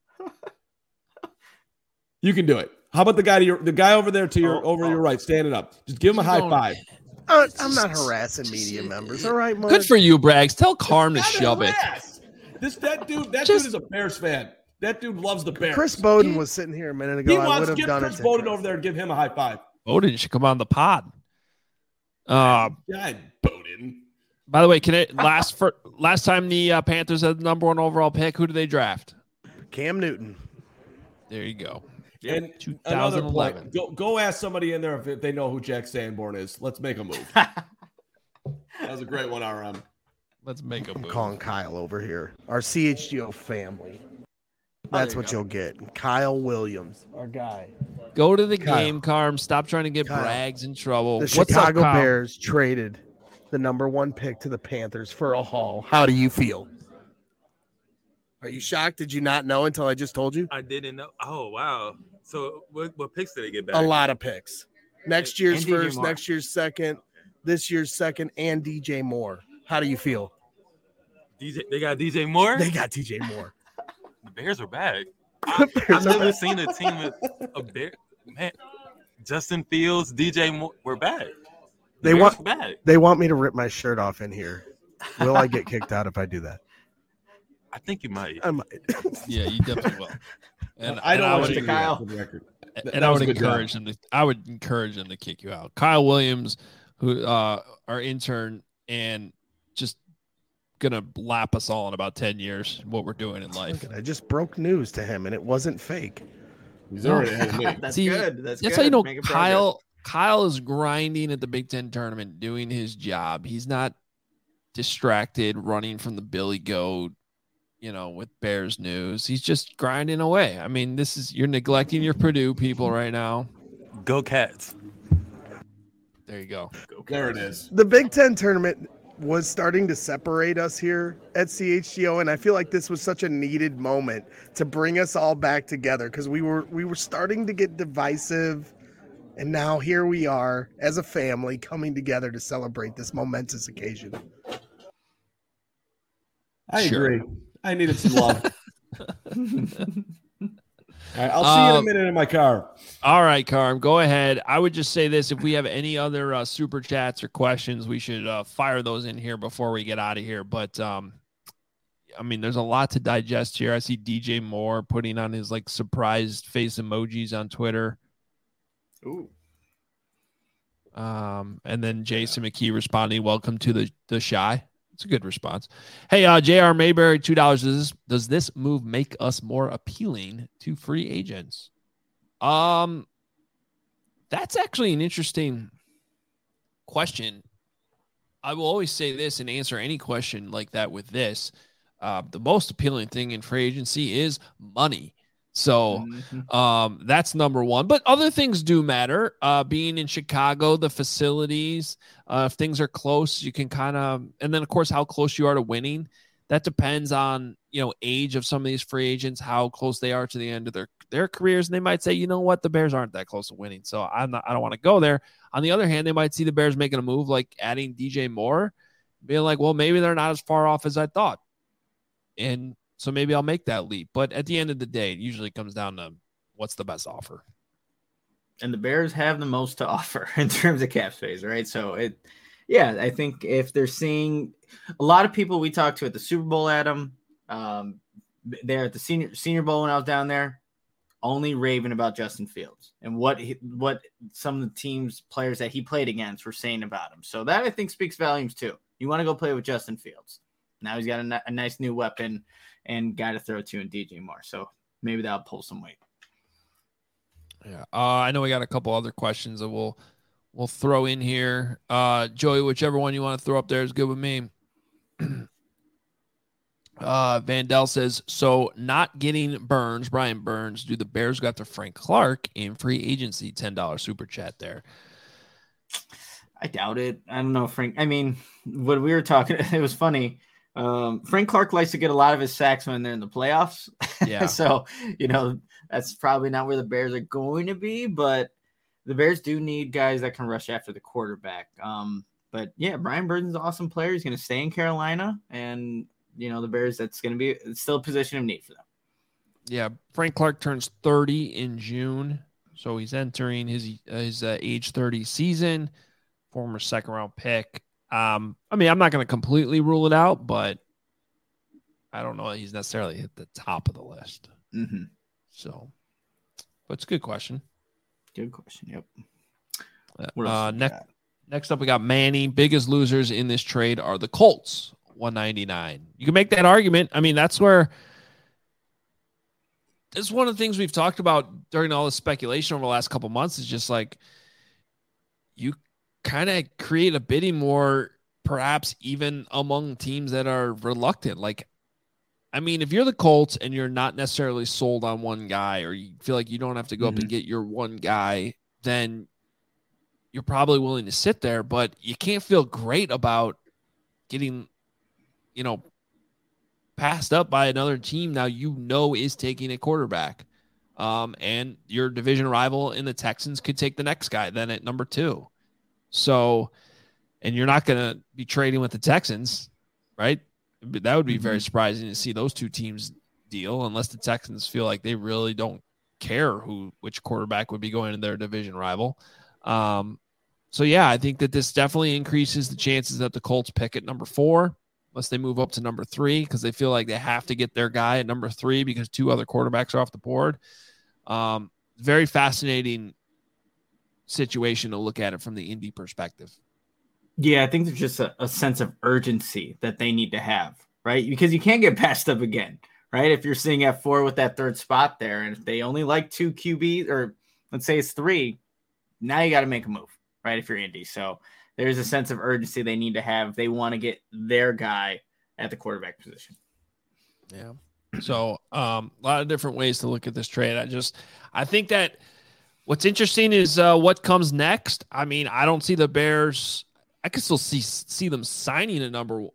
You can do it. How about the guy over there to your your right, standing up? Just give him a high five. I'm not harassing media members. All right, Mark. Good for you, Braggs. Tell Carm to shove it. That dude is a Bears fan. That dude loves the Bears. Chris Bowden was sitting here a minute ago. He wants to get Chris Bowden over there and give him a high five. Bowden should come on the pod. God, Bowden. By the way, last time the Panthers had the number 1 overall pick, who did they draft? Cam Newton. There you go. And 2011. Go ask somebody in there if they know who Jack Sanborn is. Let's make a move. That was a great one, RM. Let's make a move. I'm calling Kyle over here. Our CHGO family. That's what you'll get. Kyle Williams, our guy. Go to the game, Carm. Stop trying to get Braggs in trouble. The Chicago Bears traded the number 1 pick to the Panthers for a haul. How do you feel? Are you shocked? Did you not know until I just told you? I didn't know. Oh, wow. So what picks did they get back? A lot of picks. Next year's first, next year's second, this year's second, and DJ Moore. How do you feel? They got DJ Moore. They got DJ Moore. The Bears are back. Bears I've are never back. seen a team with a Bear. Man, Justin Fields, DJ Moore, we're back. They Bears want are back. They want me to rip my shirt off in here. Will I get kicked out if I do that? I think you might. I might. Yeah, you definitely will. And I don't and want would- you to do Kyle. that for the record. and I would encourage them to. I would encourage them to kick you out. Kyle Williams, who our intern, and just gonna lap us all in about 10 years what we're doing in life. I just broke news to him, and it wasn't fake. He's already ahead of me. That's See, good. That's good. how you know Making progress. Kyle is grinding at the Big Ten tournament, doing his job. He's not distracted, running from the Billy Goat, with Bears news. He's just grinding away. I mean, you're neglecting your Purdue people right now. Go Cats. There you go. There it is. The Big Ten tournament was starting to separate us here at CHGO, and I feel like this was such a needed moment to bring us all back together because we were starting to get divisive, and now here we are as a family coming together to celebrate this momentous occasion. I Sure. agree. I needed some love. All right, I'll see you in a minute in my car. All right, Carm, go ahead. I would just say this. If we have any other super chats or questions, we should fire those in here before we get out of here. But, there's a lot to digest here. I see DJ Moore putting on his, surprised face emojis on Twitter. Ooh. And then Jason McKee responding, welcome to the Shy. It's a good response. Hey, J.R. Mayberry, $2. Does this move make us more appealing to free agents? That's actually an interesting question. I will always say this and answer any question like that with this. The most appealing thing in free agency is money. So that's number one. But other things do matter. Being in Chicago, the facilities, if things are close, you can kind of, and then of course, how close you are to winning. That depends on, age of some of these free agents, how close they are to the end of their careers. And they might say, you know what, the Bears aren't that close to winning. So I don't want to go there. On the other hand, they might see the Bears making a move like adding DJ Moore, being like, well, maybe they're not as far off as I thought. And so maybe I'll make that leap. But at the end of the day, it usually comes down to what's the best offer. And the Bears have the most to offer in terms of cap space, right? So I think if they're seeing a lot of people we talked to at the Super Bowl, Adam, there at the Senior Bowl when I was down there, only raving about Justin Fields and what some of the teams players that he played against were saying about him. So that I think speaks volumes too. You want to go play with Justin Fields. Now he's got a nice new weapon and guy to throw to in DJ Moore. So maybe that'll pull some weight. Yeah. I know we got a couple other questions that we'll throw in here. Joey, whichever one you want to throw up there is good with me. Vandell says, so not getting Brian Burns, do the Bears got to Frank Clark in free agency? $10 super chat there. I doubt it. I don't know, Frank. I mean, when we were talking, it was funny. Frank Clark likes to get a lot of his sacks when they're in the playoffs. Yeah. So, that's probably not where the Bears are going to be, but the Bears do need guys that can rush after the quarterback. But yeah, Brian Burns is an awesome player. He's going to stay in Carolina, and the Bears, it's still a position of need for them. Yeah. Frank Clark turns 30 in June. So he's entering his age 30 season, former second round pick. I'm not going to completely rule it out, but I don't know that he's necessarily hit the top of the list. Mm-hmm. So, but it's a good question. Good question. Yep. Next up, we got Manny. Biggest losers in this trade are the Colts, $199. You can make that argument. I mean, that's one of the things we've talked about during all the speculation over the last couple months is just like you kind of create a bidding war, perhaps even among teams that are reluctant. If you're the Colts and you're not necessarily sold on one guy, or you feel like you don't have to go up and get your one guy, then you're probably willing to sit there, but you can't feel great about getting, passed up by another team now is taking a quarterback. And your division rival in the Texans could take the next guy then at number 2. So, and you're not going to be trading with the Texans, right? That would be very surprising to see those two teams deal, unless the Texans feel like they really don't care which quarterback would be going to their division rival. So yeah, I think that this definitely increases the chances that the Colts pick at number 4, unless they move up to number 3, because they feel like they have to get their guy at number 3 because 2 other quarterbacks are off the board. Very fascinating situation to look at it from the Indy perspective. Yeah, I think there's just a sense of urgency that they need to have, right? Because you can't get passed up again, right? If you're sitting at 4 with that 3rd spot there, and if they only like 2 QBs, or let's say it's 3, now you got to make a move, right? If you're Indy. So there's a sense of urgency they need to have. They want to get their guy at the quarterback position. Yeah. So a lot of different ways to look at this trade. I think that what's interesting is what comes next. I mean, I don't see the Bears. I could still see them signing another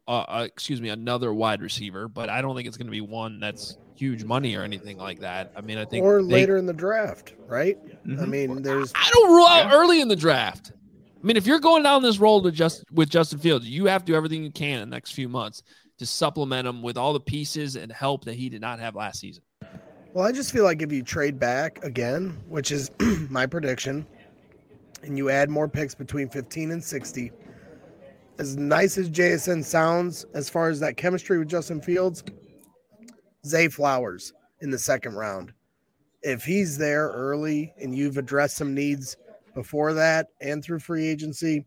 wide receiver, but I don't think it's going to be one that's huge money or anything like that. I mean, I think later in the draft, right? I mean, I don't rule out early in the draft. I mean, if you're going down this road with Justin Fields, you have to do everything you can in the next few months to supplement him with all the pieces and help that he did not have last season. Well, I just feel like if you trade back again, which is my prediction, and you add more picks between 15 and 60, as nice as JSN sounds as far as that chemistry with Justin Fields, Zay Flowers in the 2nd round. If he's there early and you've addressed some needs before that and through free agency,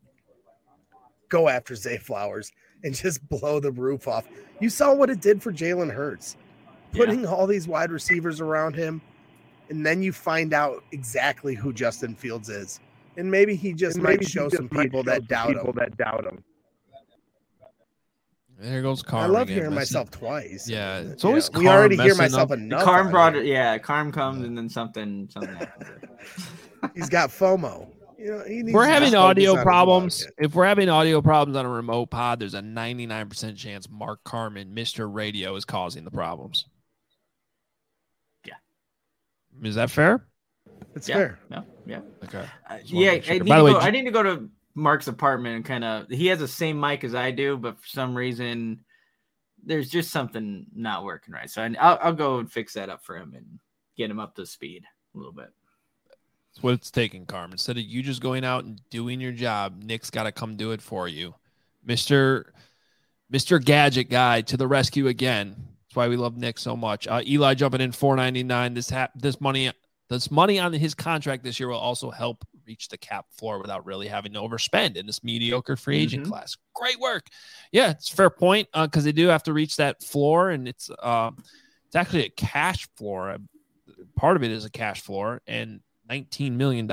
go after Zay Flowers and just blow the roof off. You saw what it did for Jalen Hurts, putting all these wide receivers around him, and then you find out exactly who Justin Fields is. And maybe he just might show some people that doubt him. There goes Carm. I love hearing myself twice. Yeah, it's always we already hear myself enough. Carm brought it. Yeah, Carm comes and then something happens. He's got FOMO. We're having audio problems. If we're having audio problems on a remote pod, there's a 99% chance Mark Carman, Mr. Radio, is causing the problems. Yeah. Is that fair? It's fair. No. Yeah. Okay. I need to go to Mark's apartment and kind of, he has the same mic as I do, but for some reason there's just something not working right. So I'll go and fix that up for him and get him up to speed a little bit. That's what it's taking, Carm. Instead of you just going out and doing your job, Nick's got to come do it for you. Mr. Gadget guy to the rescue again. That's why we love Nick so much. Eli jumping in $4.99. This money on his contract this year will also help reach the cap floor without really having to overspend in this mediocre free agent class. Great work. Yeah, it's a fair point because they do have to reach that floor, and it's actually a cash floor. Part of it is a cash floor, and $19 million.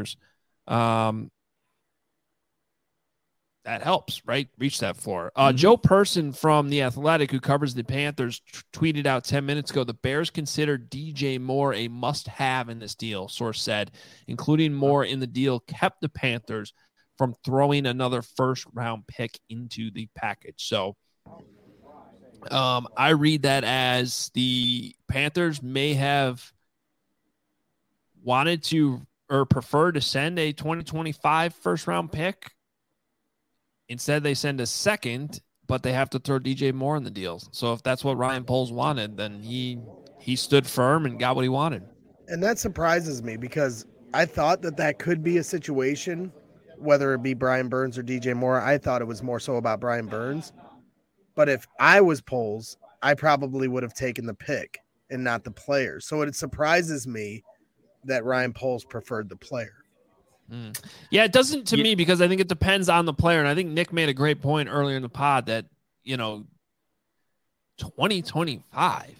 That helps, right? Reach that floor. Joe Person from The Athletic, who covers the Panthers, tweeted out 10 minutes ago, the Bears consider DJ Moore a must-have in this deal, source said. Including Moore in the deal kept the Panthers from throwing another first-round pick into the package. So I read that as the Panthers may have wanted to or prefer to send a 2025 first-round pick. Instead, they send a second, but they have to throw DJ Moore in the deal. So if that's what Ryan Poles wanted, then he stood firm and got what he wanted. And that surprises me because I thought that could be a situation, whether it be Brian Burns or DJ Moore. I thought it was more so about Brian Burns. But if I was Poles, I probably would have taken the pick and not the player. So it surprises me that Ryan Poles preferred the player. Yeah, it doesn't to me because I think it depends on the player. And I think Nick made a great point earlier in the pod that, 2025,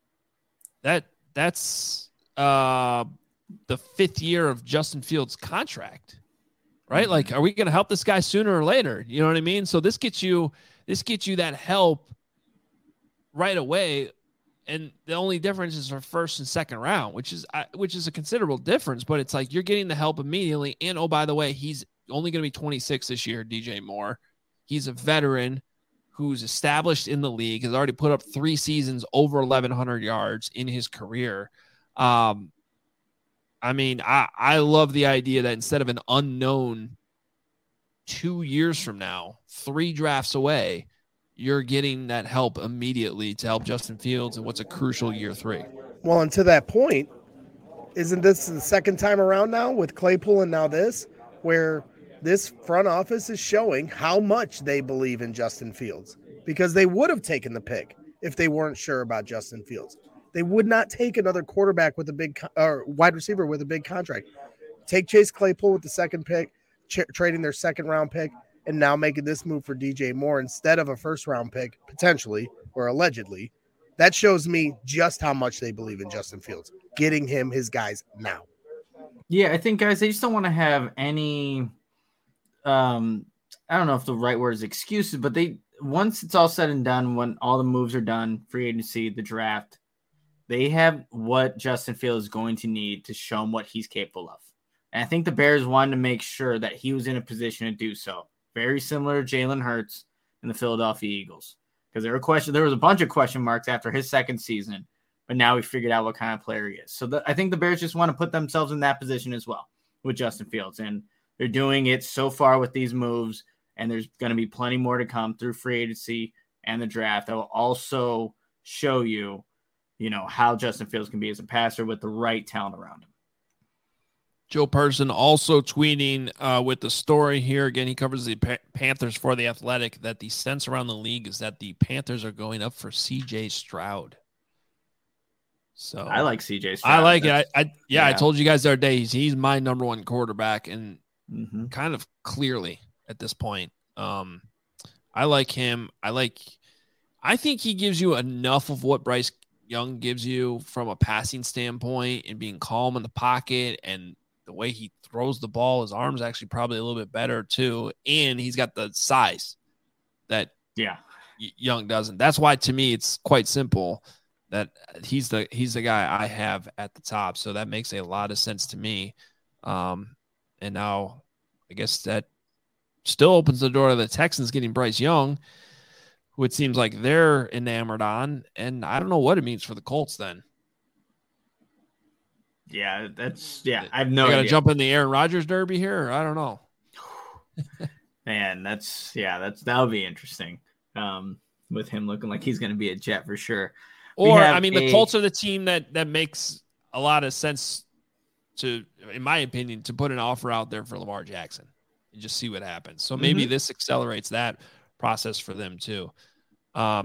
that's the 5th year of Justin Fields' contract, right? Like, are we going to help this guy sooner or later? You know what I mean? So this gets you that help right away. And the only difference is for first and second round, which is a considerable difference. But it's like you're getting the help immediately. And, oh, by the way, he's only going to be 26 this year, DJ Moore. He's a veteran who's established in the league, has already put up 3 seasons over 1,100 yards in his career. I love the idea that instead of an unknown 2 years from now, 3 drafts away, you're getting that help immediately to help Justin Fields in what's a crucial year 3. Well, and to that point, isn't this the second time around now with Claypool and now this, where this front office is showing how much they believe in Justin Fields? Because they would have taken the pick if they weren't sure about Justin Fields. They would not take another quarterback with a big or wide receiver with a big contract. Take Chase Claypool with the second pick, trading their second round pick, and now making this move for DJ Moore instead of a first round pick, potentially or allegedly. That shows me just how much they believe in Justin Fields, getting him his guys now. Yeah, I think, guys, they just don't want to have any I don't know if the right word is excuses, but once it's all said and done, when all the moves are done, free agency, the draft, they have what Justin Fields is going to need to show him what he's capable of. And I think the Bears wanted to make sure that he was in a position to do so. Very similar to Jalen Hurts and the Philadelphia Eagles. Because there was a bunch of question marks after his second season, but now we figured out what kind of player he is. So I think the Bears just want to put themselves in that position as well with Justin Fields. And they're doing it so far with these moves, and there's going to be plenty more to come through free agency and the draft that will also show you, how Justin Fields can be as a passer with the right talent around him. Joe Person also tweeting with the story here. Again, he covers the Panthers for The Athletic, that the sense around the league is that the Panthers are going up for C.J. Stroud. So I like C.J. Stroud. I like it. I told you guys the other day, he's my number one quarterback, and kind of clearly at this point. I like him. I think he gives you enough of what Bryce Young gives you from a passing standpoint and being calm in the pocket, and the way he throws the ball, his arm's actually probably a little bit better too. And he's got the size that Young doesn't. That's why, to me, it's quite simple that he's the guy I have at the top. So that makes a lot of sense to me. And now I guess that still opens the door to the Texans getting Bryce Young, who it seems like they're enamored on. And I don't know what it means for the Colts then. Yeah, I have no idea. Got to jump in the Aaron Rodgers derby here? Or I don't know. Man, that'll be interesting. With him looking like he's going to be a Jet for sure. Or, the Colts are the team that makes a lot of sense to, in my opinion, to put an offer out there for Lamar Jackson and just see what happens. So maybe this accelerates that process for them too. A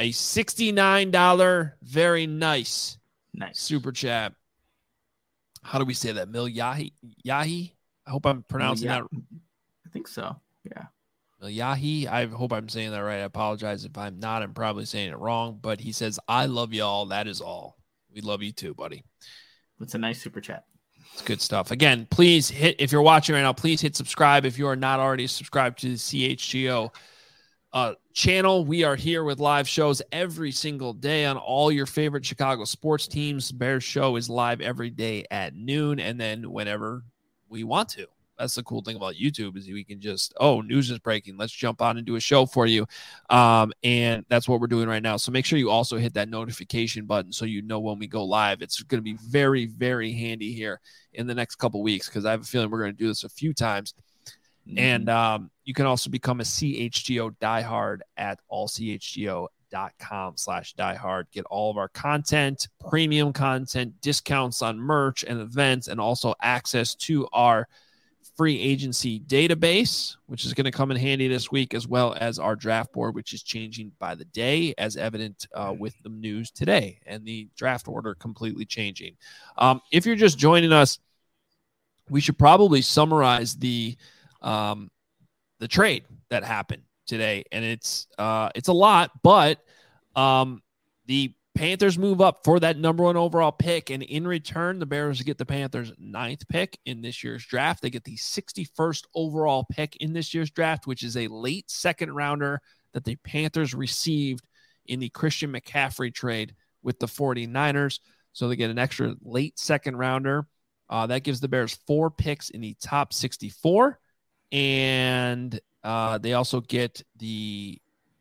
$69, very nice super chat. How do we say that? Yahi? I hope I'm pronouncing that. I think so. Yeah. Yahi. I hope I'm saying that right. I apologize if I'm not. I'm probably saying it wrong, but he says, I love y'all. That is all. We love you too, buddy. That's a nice super chat. It's good stuff. Again, please if you're watching right now, please hit subscribe. If you are not already subscribed to the CHGO channel, we are here with live shows every single day on all your favorite Chicago sports teams. Bears show is live every day at noon, and then whenever we want to. That's the cool thing about YouTube, is we can just, news is breaking, let's jump on and do a show for you. And that's what we're doing right now. So make sure you also hit that notification button so you know when we go live. It's going to be very, very handy here in the next couple weeks, because I have a feeling we're going to do this a few times. And you can also become a CHGO diehard at allchgo.com/diehard. Get all of our content, premium content, discounts on merch and events, and also access to our free agency database, which is going to come in handy this week, as well as our draft board, which is changing by the day, as evident with the news today and the draft order completely changing. If you're just joining us, we should probably summarize the trade that happened today, and it's a lot, but the Panthers move up for that number 1 overall pick, and in return, the Bears get the Panthers' 9th pick in this year's draft. They get the 61st overall pick in this year's draft, which is a late second rounder that the Panthers received in the Christian McCaffrey trade with the 49ers. So they get an extra late second rounder. That gives the Bears 4 picks in the top 64. And they also get the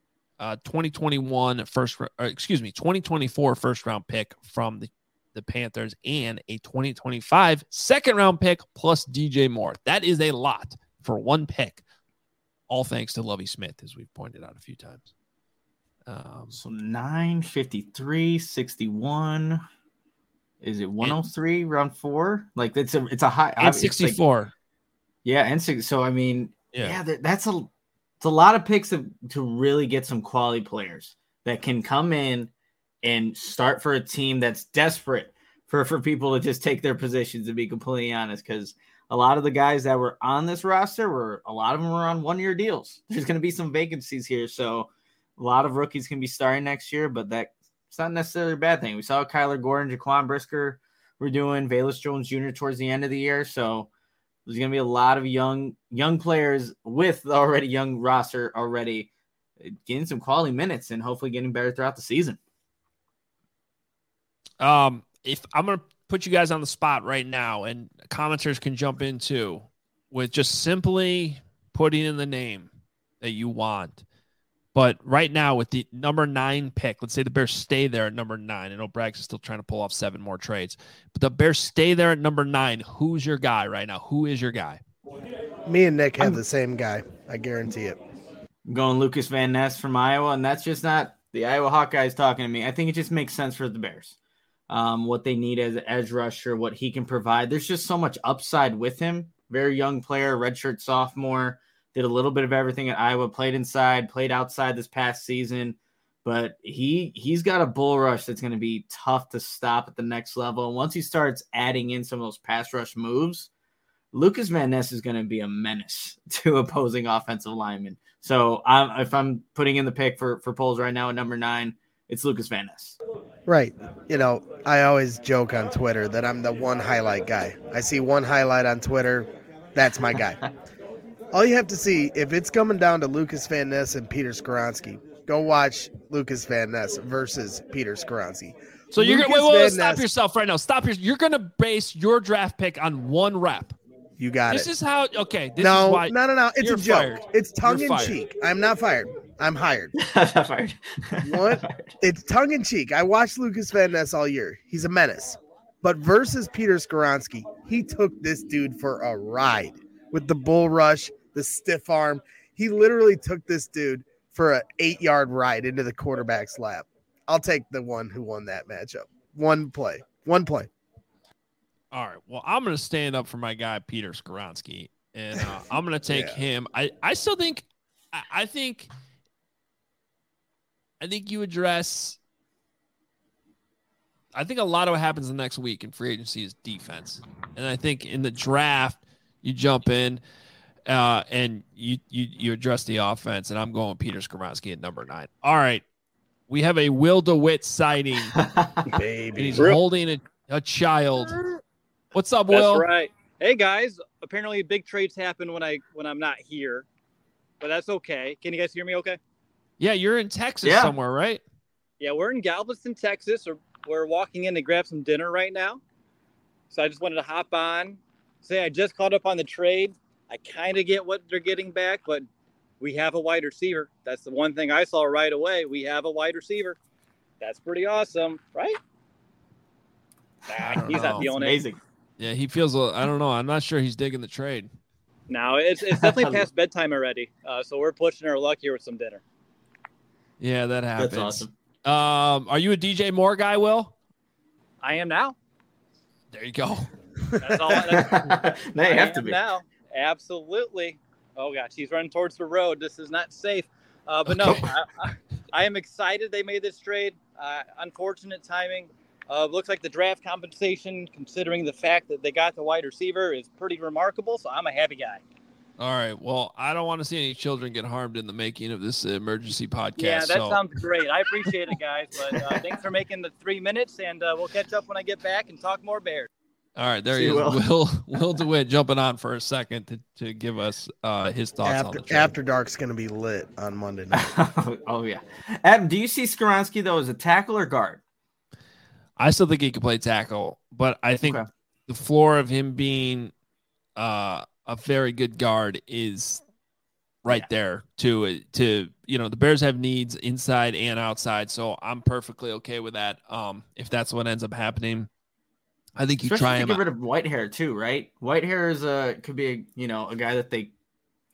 2024 first round pick from the Panthers, and a 2025 second round pick plus DJ Moore. That is a lot for one pick all thanks to Lovie Smith, as we've pointed out a few times. So 953, 61. Is it 103 round 4? Like it's a high. And 64. Like, yeah, and so I mean, yeah, that's a lot of picks to really get some quality players that can come in and start for a team that's desperate for people to just take their positions, to be completely honest, because a lot of the guys that were on this roster a lot of them were on 1-year deals. There's going to be some vacancies here, so a lot of rookies can be starting next year, but it's not necessarily a bad thing. We saw Kyler Gordon, Jaquan Brisker were doing, Velus Jones Jr. towards the end of the year, so there's going to be a lot of young players with already young roster already getting some quality minutes and hopefully getting better throughout the season. If I'm going to put you guys on the spot right now, and commenters can jump in too, with just simply putting in the name that you want. But right now with the number 9 pick, let's say the Bears stay there at number 9. I know Braggs is still trying to pull off 7 more trades, but the Bears stay there at number 9. Who's your guy right now? Who is your guy? Me and Nick have the same guy. I guarantee it. I'm going Lucas Van Ness from Iowa, and that's just not the Iowa Hawkeyes talking to me. I think it just makes sense for the Bears. What they need as an edge rusher, what he can provide. There's just so much upside with him. Very young player, redshirt sophomore, did a little bit of everything at Iowa, played inside, played outside this past season, but he's got a bull rush that's going to be tough to stop at the next level. And once he starts adding in some of those pass rush moves, Lucas Van Ness is going to be a menace to opposing offensive linemen. So if I'm putting in the pick for polls right now at number 9, it's Lucas Van Ness. Right. I always joke on Twitter that I'm the one highlight guy. I see one highlight on Twitter, that's my guy. All you have to see, if it's coming down to Lucas Van Ness and Peter Skoronski, go watch Lucas Van Ness versus Peter Skoronski. So you're going to wait, stop yourself right now. You're going to base your draft pick on 1 rep. You got This it. is how, okay. No. It's a joke. Fired. It's tongue in cheek. I'm not fired. I'm hired. I'm not fired. What? It's tongue in cheek. I watched Lucas Van Ness all year. He's a menace. But versus Peter Skoronski, he took this dude for a ride with the bull rush, the stiff arm. He literally took this dude for an 8-yard ride into the quarterback's lap. I'll take the one who won that matchup. One play. All right. Well, I'm going to stand up for my guy, Peter Skoronski, and I'm going to take him. I still think – I think you address – I think a lot of what happens the next week in free agency is defense. And I think in the draft, you jump in and you address the offense, and I'm going Peter Skoronski at number 9. All right. We have a Will DeWitt sighting. Baby. And he's holding a child. What's up, Will? That's right. Hey guys, apparently big trades happen when I'm not here, but that's okay. Can you guys hear me okay? Yeah, you're in Texas somewhere, right? Yeah, we're in Galveston, Texas. We're walking in to grab some dinner right now. So I just wanted to hop on, say I just caught up on the trade. I kind of get what they're getting back, but we have a wide receiver. That's the one thing I saw right away. We have a wide receiver. That's pretty awesome, right? Nah, he's not feeling it. Amazing. Yeah, he feels. I don't know. I'm not sure he's digging the trade. No, it's definitely past bedtime already. So we're pushing our luck here with some dinner. Yeah, that happens. That's awesome. Are you a DJ Moore guy, Will? I am now. There you go. That's all. Now you have to be. Now, absolutely. Oh gosh, he's running towards the road. This is not safe. But no, I am excited they made this trade. Unfortunate timing. Looks like the draft compensation, considering the fact that they got the wide receiver, is pretty remarkable. So I'm a happy guy. All right. Well, I don't want to see any children get harmed in the making of this emergency podcast. Yeah, that sounds great. I appreciate it, guys. But thanks for making the 3 minutes, and we'll catch up when I get back and talk more Bears. All right, there he is. Will DeWitt jumping on for a second to give us his thoughts on the trade. After Dark's going to be lit on Monday night. Oh, yeah. Adam, do you see Skoronski, though, as a tackle or guard? I still think he could play tackle, but I think the floor of him being a very good guard is right there to the Bears have needs inside and outside, so I'm perfectly okay with that. If that's what ends up happening, I think you try him. Get rid of Whitehair too, right? Whitehair is could be a guy that they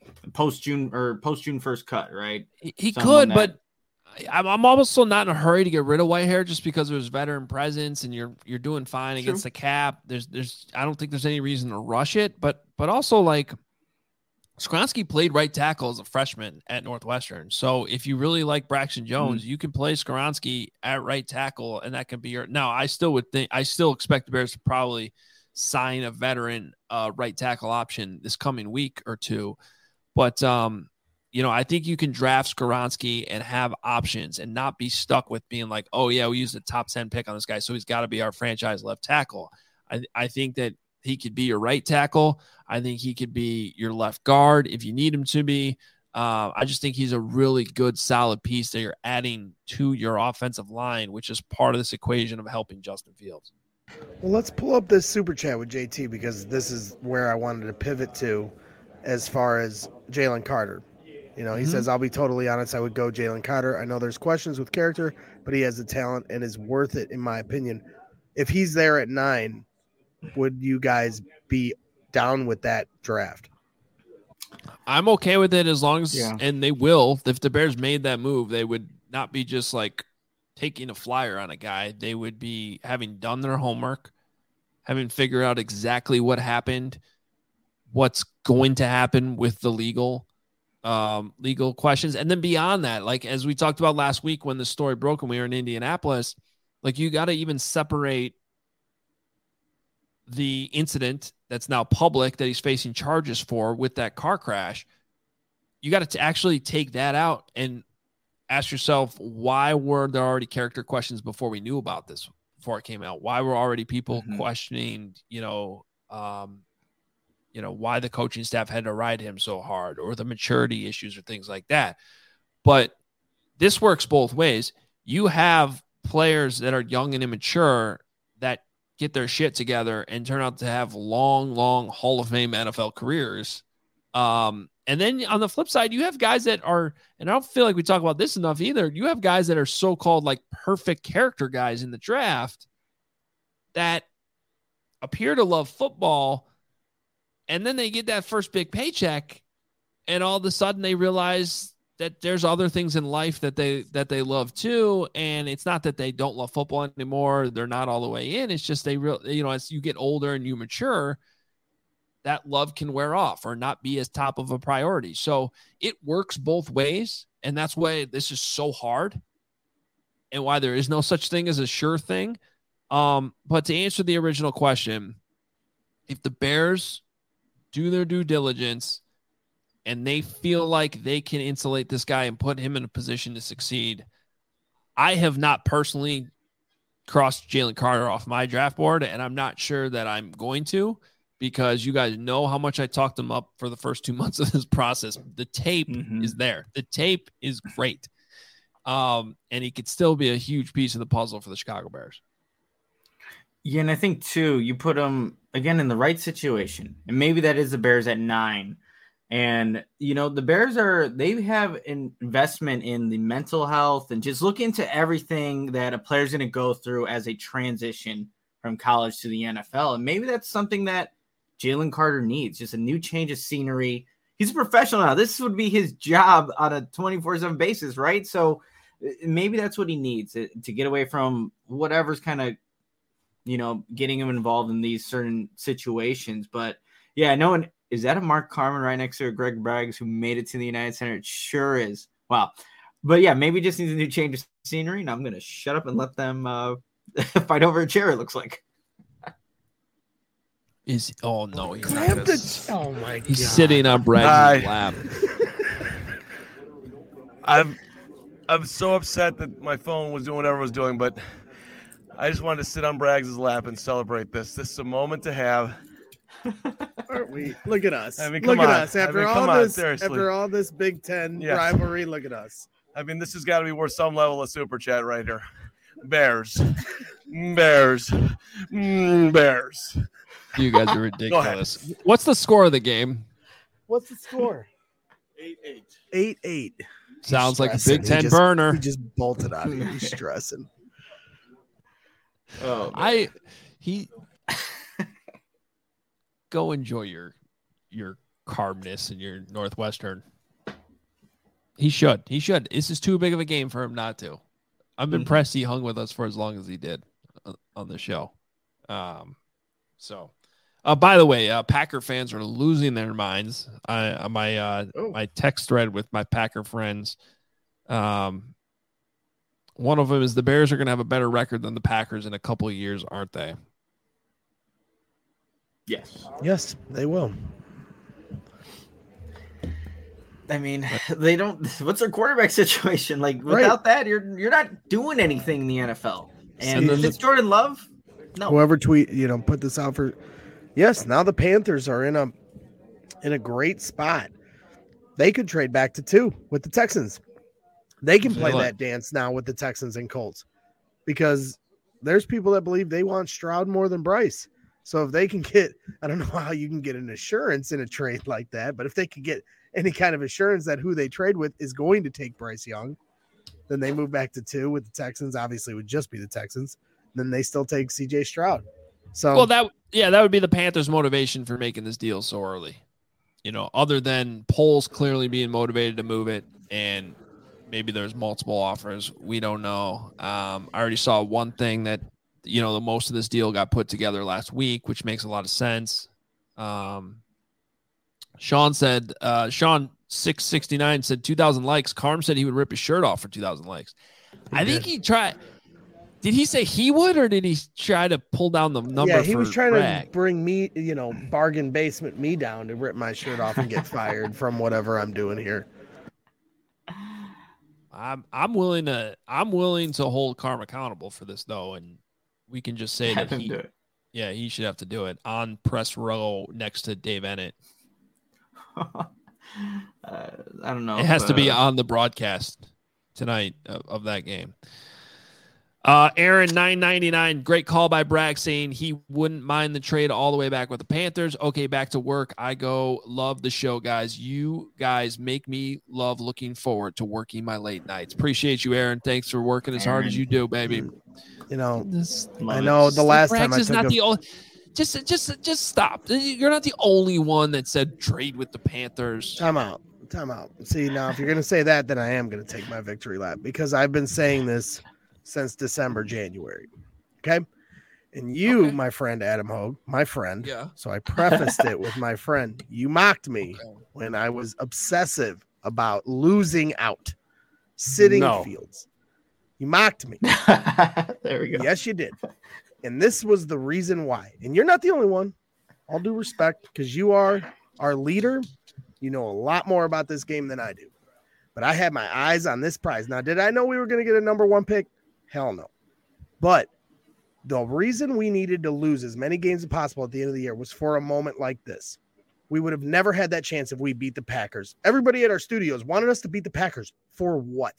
post June 1st cut, right? He Someone could, but I'm also not in a hurry to get rid of Whitehair just because there's veteran presence and you're doing fine against the cap. There's I don't think there's any reason to rush it, but also like Skoronski played right tackle as a freshman at Northwestern. So if you really like Braxton Jones, you can play Skoronski at right tackle, and that can be your. Now, I still expect the Bears to probably sign a veteran right tackle option this coming week or two. But I think you can draft Skoronski and have options and not be stuck with being like, oh yeah, we used a top 10 pick on this guy, so he's got to be our franchise left tackle. I think that he could be your right tackle. I think he could be your left guard if you need him to be. I just think he's a really good, solid piece that you're adding to your offensive line, which is part of this equation of helping Justin Fields. Well, let's pull up this super chat with JT because this is where I wanted to pivot to as far as Jalen Carter. He says, I'll be totally honest, I would go Jalen Carter. I know there's questions with character, but he has the talent and is worth it, in my opinion. If he's there at 9, would you guys be down with that draft? I'm okay with it as long as, and they will, if the Bears made that move, they would not be just like taking a flyer on a guy. They would be having done their homework, having figured out exactly what happened, what's going to happen with the legal questions. And then beyond that, like, as we talked about last week, when the story broke and we were in Indianapolis, like, you got to even separate the incident that's now public that he's facing charges for with that car crash. You got to actually take that out and ask yourself, why were there already character questions before we knew about this, before it came out? Why were already people questioning, why the coaching staff had to ride him so hard, or the maturity issues or things like that? But this works both ways. You have players that are young and immature that get their shit together and turn out to have long Hall of Fame NFL careers. And then on the flip side, you have guys that are, and I don't feel like we talk about this enough either, you have guys that are so-called like perfect character guys in the draft that appear to love football, and then they get that first big paycheck, and all of a sudden they realize that there's other things in life that they love too. And it's not that they don't love football anymore. They're not all the way in. It's just as you get older and you mature, that love can wear off or not be as top of a priority. So it works both ways. And that's why this is so hard and why there is no such thing as a sure thing. But to answer the original question, if the Bears do their due diligence and they feel like they can insulate this guy and put him in a position to succeed, I have not personally crossed Jalen Carter off my draft board, and I'm not sure that I'm going to, because you guys know how much I talked him up for the first 2 months of this process. The tape is there. The tape is great. And he could still be a huge piece of the puzzle for the Chicago Bears. Yeah, and I think, too, you put him, again, in the right situation. And maybe that is the Bears at 9. And, the Bears they have an investment in the mental health and just look into everything that a player's going to go through as a transition from college to the NFL. And maybe that's something that Jalen Carter needs, just a new change of scenery. He's a professional now. This would be his job on a 24/7 basis, right? So maybe that's what he needs to get away from whatever's kind of, getting him involved in these certain situations. But yeah, no one. Is that a Mark Carman right next to a Greg Braggs who made it to the United Center? It sure is. Wow. But yeah, maybe just needs a new change of scenery, and I'm going to shut up and let them fight over a chair, it looks like. Oh, no. He's oh, my God. He's sitting on Braggs' lap. I'm so upset that my phone was doing whatever it was doing, but I just wanted to sit on Braggs' lap and celebrate this. This is a moment to have. Aren't we? Look at us. I mean, look at us. After all this Big Ten rivalry, look at us. I mean, this has got to be worth some level of super chat right here. Bears. Bears. Bears. You guys are ridiculous. What's the score of the game? What's the score? 8-8. 8-8. Sounds like a Big Ten burner. He just bolted out of here. He's stressing. Oh, go enjoy your Cardinals and your Northwestern. He should. This is too big of a game for him not to. I'm impressed he hung with us for as long as he did on the show. By the way, Packer fans are losing their minds. My text thread with my Packer friends. One of them is the Bears are going to have a better record than the Packers in a couple of years, aren't they? Yes, they will. I mean, they don't. What's their quarterback situation like? Without that, you're not doing anything in the NFL. And it's Jordan Love. No. Whoever put this out for. Yes, now the Panthers are in a great spot. They could trade back to 2 with the Texans. They can play that dance now with the Texans and Colts because there's people that believe they want Stroud more than Bryce. So if they can get, I don't know how you can get an assurance in a trade like that, but if they could get any kind of assurance that who they trade with is going to take Bryce Young, then they move back to 2 with the Texans. Obviously, it would just be the Texans. Then they still take CJ Stroud. So that would be the Panthers' motivation for making this deal so early. Other than Poles clearly being motivated to move it, and maybe there's multiple offers. We don't know. I already saw one thing that the most of this deal got put together last week, which makes a lot of sense. Sean 669 said 2,000 likes. Carm said he would rip his shirt off for 2,000 likes. I think he tried. Did he say he would, or did he try to pull down the number? Yeah, he was trying to bring me, bargain basement me down to rip my shirt off and get fired from whatever I'm doing here. I'm willing to hold Carm accountable for this though, and we can just say that he should have to do it on press row next to Dave Ennett. I don't know. It has to be on the broadcast tonight of that game. Aaron 999, great call by Bragg saying he wouldn't mind the trade all the way back with the Panthers. Okay, back to work. I go. Love the show, guys. You guys make me love looking forward to working my late nights. Appreciate you, Aaron. Thanks for working as hard as you do, baby. I know the last time I took just stop. You're not the only one that said trade with the Panthers. Time out. See, now if you're going to say that, then I am going to take my victory lap because I've been saying this since December, January. Okay. And you, my friend, Adam Hogue, my friend. Yeah. So I prefaced it with my friend. You mocked me when I was obsessive about losing out, sitting fields. You mocked me. There we go. Yes, you did. And this was the reason why. And you're not the only one. All due respect, because you are our leader. You know a lot more about this game than I do. But I had my eyes on this prize. Now, did I know we were going to get a number 1 pick? Hell no. But the reason we needed to lose as many games as possible at the end of the year was for a moment like this. We would have never had that chance if we beat the Packers. Everybody at our studios wanted us to beat the Packers. For what?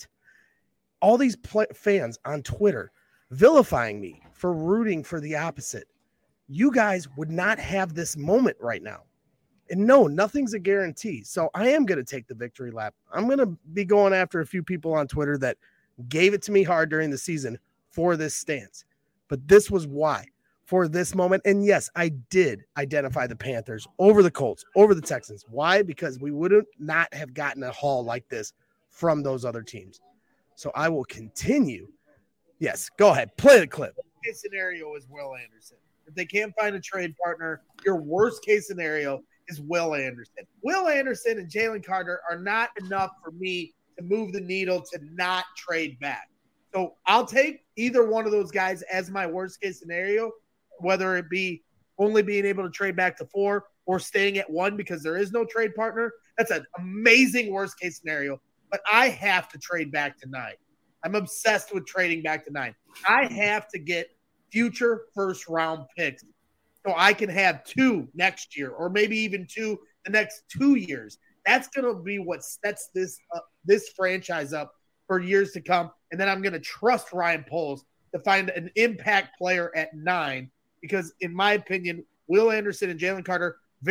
All these fans on Twitter vilifying me for rooting for the opposite. You guys would not have this moment right now. And no, nothing's a guarantee. So I am going to take the victory lap. I'm going to be going after a few people on Twitter that gave it to me hard during the season for this stance. But this was why, for this moment. And yes, I did identify the Panthers over the Colts, over the Texans. Why? Because we would not have gotten a haul like this from those other teams. So I will continue. Yes, go ahead. Play the clip. Case scenario is Will Anderson. If they can't find a trade partner, your worst case scenario is Will Anderson. Will Anderson and Jalen Carter are not enough for me to move the needle to not trade back. So I'll take either one of those guys as my worst case scenario, whether it be only being able to trade back to 4 or staying at 1 because there is no trade partner. That's an amazing worst case scenario, but I have to trade back to 9. I'm obsessed with trading back to 9. I have to get future first round picks so I can have 2 next year or maybe even 2 the next 2 years. That's going to be what sets this franchise up for years to come. And then I'm going to trust Ryan Poles to find an impact player at 9 because, in my opinion, Will Anderson and Jalen Carter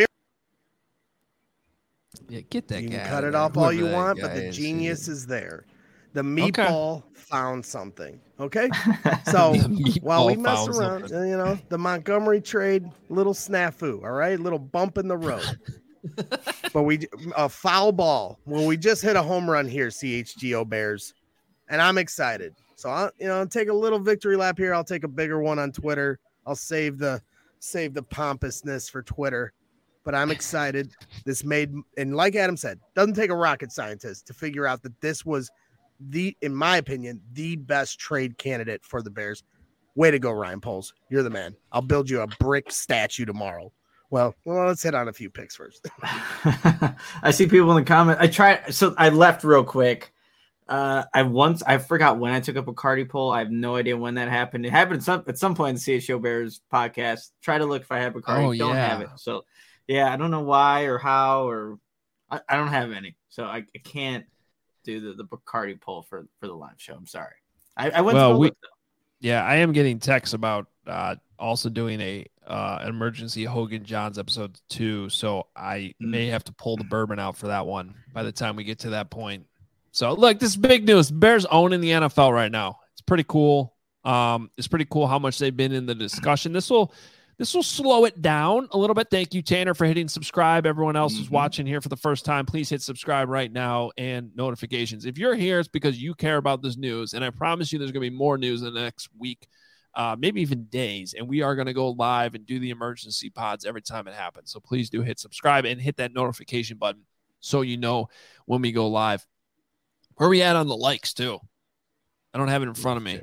get that you guy. Can cut it off all you want, but the genius is there. The meatball found something. Okay. So while we mess around, the Montgomery trade, little snafu. All right. Little bump in the road. but a foul ball. Well, we just hit a home run here, CHGO Bears, and I'm excited. So I'll take a little victory lap here. I'll take a bigger one on Twitter. I'll save the pompousness for Twitter, but I'm excited. This and like Adam said, doesn't take a rocket scientist to figure out that this was in my opinion, the best trade candidate for the Bears. Way to go, Ryan Poles. You're the man. I'll build you a brick statue tomorrow. Well, let's hit on a few picks first. I see people in the comments. I left real quick. I forgot when I took up a Cardi poll. I have no idea when that happened. It happened at some point in the CHO Bears podcast. Try to look if I have a Cardi. Don't have it. So yeah, I don't know why or how, or I don't have any. So I can't do the Bacardi poll for the live show. I'm sorry. I went to the look, though. Yeah, I am getting texts about also doing an emergency Hogan Johns episode 2, so I may have to pull the bourbon out for that one by the time we get to that point. So look, this is big news. Bears owning the NFL right now. It's pretty cool. It's pretty cool how much they've been in the discussion. This will slow it down a little bit. Thank you, Tanner, for hitting subscribe. Everyone else who's watching here for the first time, please hit subscribe right now and notifications. If you're here, it's because you care about this news, and I promise you there's going to be more news in the next week, maybe even days, and we are going to go live and do the emergency pods every time it happens. So please do hit subscribe and hit that notification button so you know when we go live. Where are we at on the likes, too? I don't have it in front of me.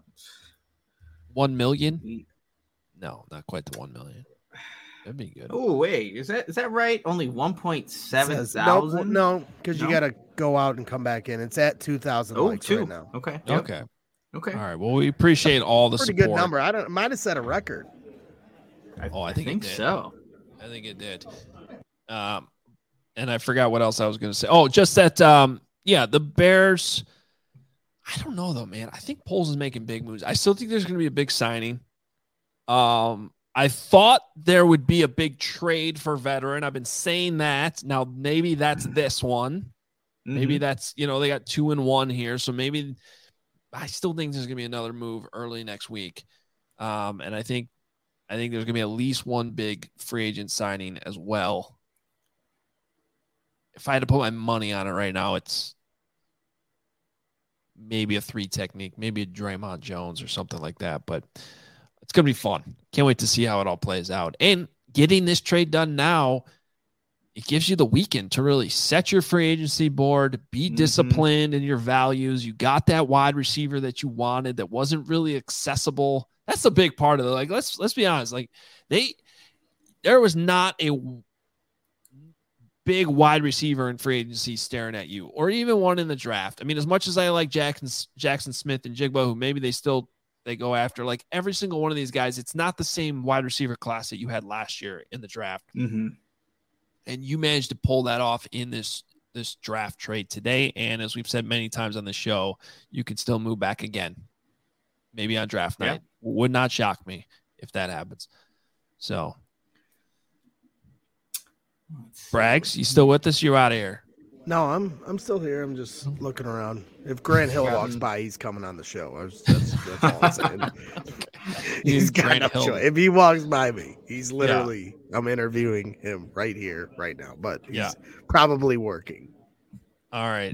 1 million? No, not quite to 1 million. That'd be good. Oh, wait. Is that right? Only 1.7 thousand? No, because you got to go out and come back in. It's at 2,000 likes right now. Okay. Yep. Okay. All right. Well, we appreciate all the pretty support. Good number. I might have set a record. I think so. I think it did. And I forgot what else I was going to say. Oh, just that, the Bears, I don't know, though, man. I think Poles is making big moves. I still think there's going to be a big signing. I thought there would be a big trade for veteran. I've been saying that. Now, maybe that's this one. Maybe that's, they got 2-1 here. So maybe I still think there's going to be another move early next week. And I think there's going to be at least one big free agent signing as well. If I had to put my money on it right now, it's maybe a 3 technique, maybe a Draymond Jones or something like that. But it's going to be fun. Can't wait to see how it all plays out. And getting this trade done now, it gives you the weekend to really set your free agency board, be disciplined in your values. You got that wide receiver that you wanted that wasn't really accessible. That's the big part of it. Like, let's be honest. Like, there was not a big wide receiver in free agency staring at you, or even one in the draft. I mean, as much as I like Jackson Smith and Jigba, who maybe they go after, like every single one of these guys, it's not the same wide receiver class that you had last year in the draft. And you managed to pull that off in this draft trade today. And as we've said many times on the show, you can still move back again, maybe on draft night. Would not shock me if that happens. So, Braggs, you still with us? You're out of here. No, I'm still here. I'm just looking around. If Grant Hill walks by, he's coming on the show. That's all I'm saying. He's got no choice. If he walks by me, he's literally, I'm interviewing him right here, right now. But he's probably working. All right.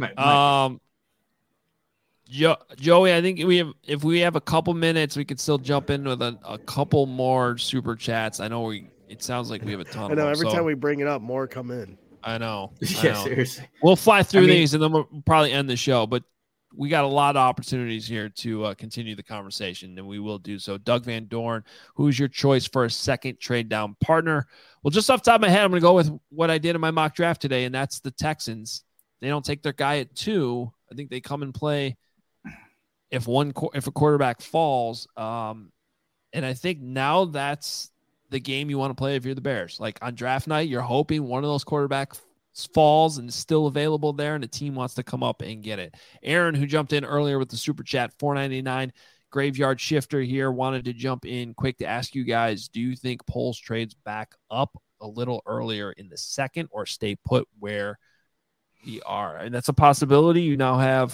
Joey, I think if we have a couple minutes, we could still jump in with a couple more super chats. I know it sounds like we have a ton. I know every time we bring it up, more come in. I know. Seriously. We'll fly through these and then we'll probably end the show. But we got a lot of opportunities here to continue the conversation, and we will do so. Doug Van Dorn, who's your choice for a second trade down partner? Well, just off the top of my head, I'm going to go with what I did in my mock draft today, and that's the Texans. They don't take their guy at 2. I think they come and play if a quarterback falls. And I think now that's the game you want to play if you're the Bears. Like on draft night, you're hoping one of those quarterbacks falls and is still available there, and the team wants to come up and get it. Aaron, who jumped in earlier with the super chat, $4.99 graveyard shifter here, wanted to jump in quick to ask you guys, do you think Poles trades back up a little earlier in the second or stay put where we are? And that's a possibility. You now have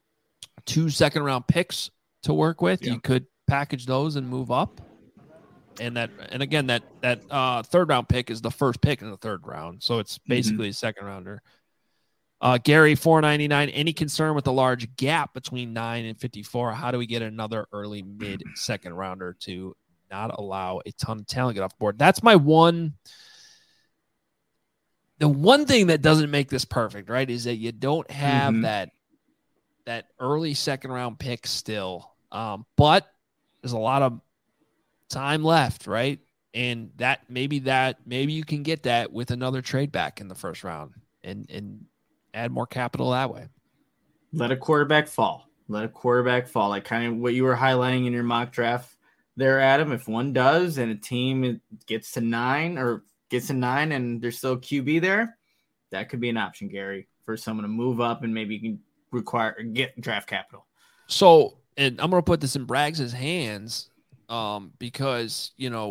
2 second-round picks to work with. You could package those and move up. And again, that third round pick is the first pick in the third round. So it's basically a second rounder. Gary, 499. Any concern with the large gap between 9 and 54? How do we get another early mid second rounder to not allow a ton of talent to get off the board? That's my one. The one thing that doesn't make this perfect, right, is that you don't have that early second round pick still. But there's a lot of time left, right? And maybe you can get that with another trade back in the first round and add more capital that way. Let a quarterback fall. Like kind of what you were highlighting in your mock draft there, Adam. If one does and a team gets to 9 and there's still a QB there, that could be an option, Gary, for someone to move up and maybe you can get draft capital. So, and I'm going to put this in Braggs' hands because,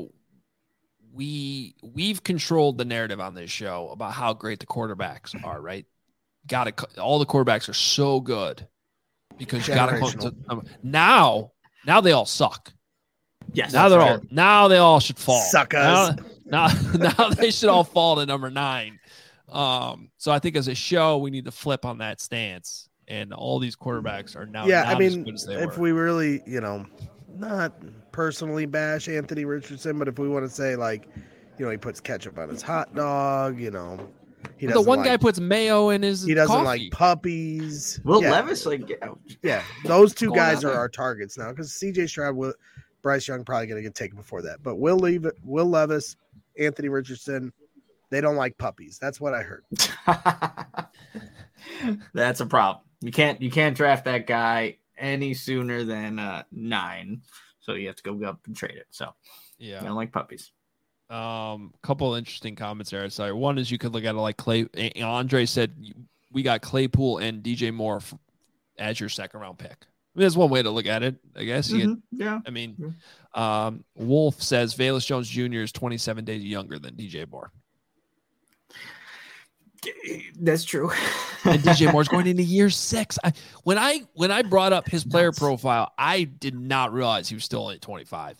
we've controlled the narrative on this show about how great the quarterbacks are, right? All the quarterbacks are so good because you got to now they all suck. Yes. Now they all should fall. Suckers. Now they should all fall to number 9. So I think as a show, we need to flip on that stance. And all these quarterbacks are now not as good as they if were. we really, not personally bash Anthony Richardson, but if we want to say he puts ketchup on his hot dog, he doesn't. The one guy puts mayo in his. He doesn't coffee. like puppies. Will Levis, those two guys are our targets now because C.J. Stroud, Bryce Young probably going to get taken before that. But Will Levis, Anthony Richardson, they don't like puppies. That's what I heard. That's a problem. You can't draft that guy any sooner than 9. So you have to go up and trade it. So yeah, I don't like puppies. Couple of interesting comments there. Sorry, one is you could look at it like Clay. Andre said we got Claypool and DJ Moore as your second round pick. I mean, that's one way to look at it, I guess. Yeah. I mean, Wolf says Velus Jones Jr. is 27 days younger than DJ Moore. That's true. And DJ Moore's going into year 6. When I brought up his player profile, I did not realize he was still only 25.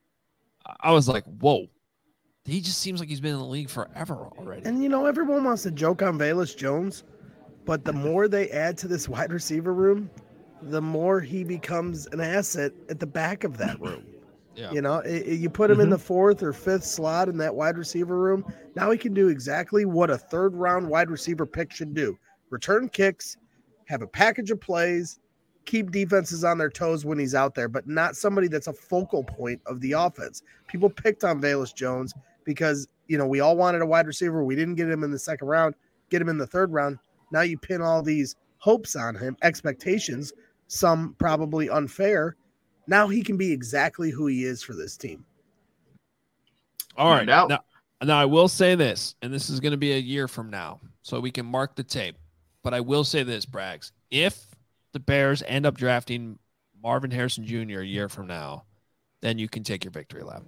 I was like, whoa. He just seems like he's been in the league forever already. And, everyone wants to joke on Velus Jones, but the more they add to this wide receiver room, the more he becomes an asset at the back of that room. Yeah. You put him in the 4th or 5th slot in that wide receiver room. Now he can do exactly what a third-round wide receiver pick should do. Return kicks, have a package of plays, keep defenses on their toes when he's out there, but not somebody that's a focal point of the offense. People picked on Velus Jones because, we all wanted a wide receiver. We didn't get him in the second round, get him in the third round. Now you pin all these hopes on him, expectations, some probably unfair. Now he can be exactly who he is for this team. All right. Now I will say this, and this is going to be a year from now, so we can mark the tape. But I will say this, Braggs. If the Bears end up drafting Marvin Harrison Jr. a year from now, then you can take your victory lap.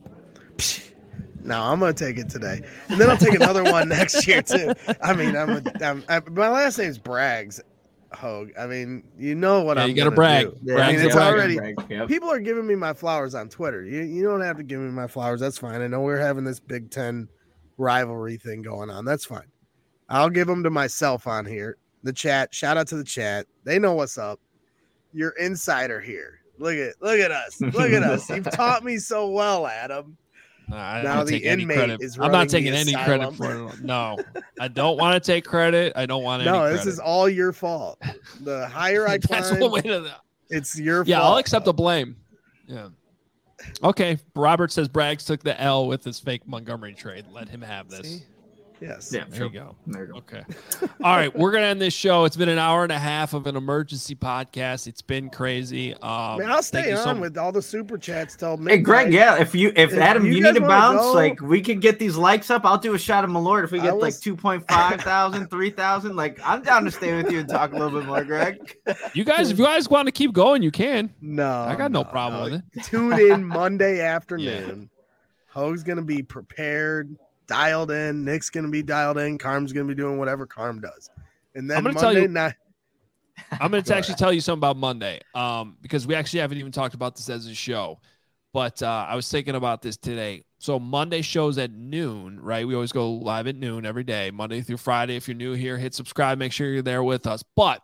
No, I'm going to take it today. And then I'll take another one next year, too. I mean, my last name's Braggs. Hogue. I mean, what I'm. You got to brag. Yeah, I mean, it's already. People are giving me my flowers on Twitter. You don't have to give me my flowers. That's fine. I know we're having this Big Ten rivalry thing going on. That's fine. I'll give them to myself on here. The chat. Shout out to the chat. They know what's up. You're insider here. Look at us. Look at us. You've taught me so well, Adam. Now the inmate is. I'm not taking any credit for it. No, I don't want to take credit. I don't want any credit. This is all your fault. The higher I climb, that's one way to. It's your fault. Yeah, I'll accept the blame. Yeah. Okay. Robert says Braggs took the L with his fake Montgomery trade. Let him have this. See? Yes. Yeah, there you go. Okay. All right. We're going to end this show. It's been an hour and a half of an emergency podcast. It's been crazy. I'll stay on with all the super chats till midnight. Hey, Greg, if Adam, you need to bounce, we could get these likes up. I'll do a shot of Malort if we get 2.5 thousand, 3,000. I'm down to stay with you and talk a little bit more, Greg. If you guys want to keep going, you can. No. I got no problem with it. Tune in Monday afternoon. Yeah. Hogue's going to be prepared. Dialed in. Nick's going to be dialed in. Carm's going to be doing whatever Carm does. And then Monday night. I'm going to actually tell you something about Monday because we actually haven't even talked about this as a show. But I was thinking about this today. So Monday shows at noon, right? We always go live at noon every day, Monday through Friday. If you're new here, hit subscribe. Make sure you're there with us. But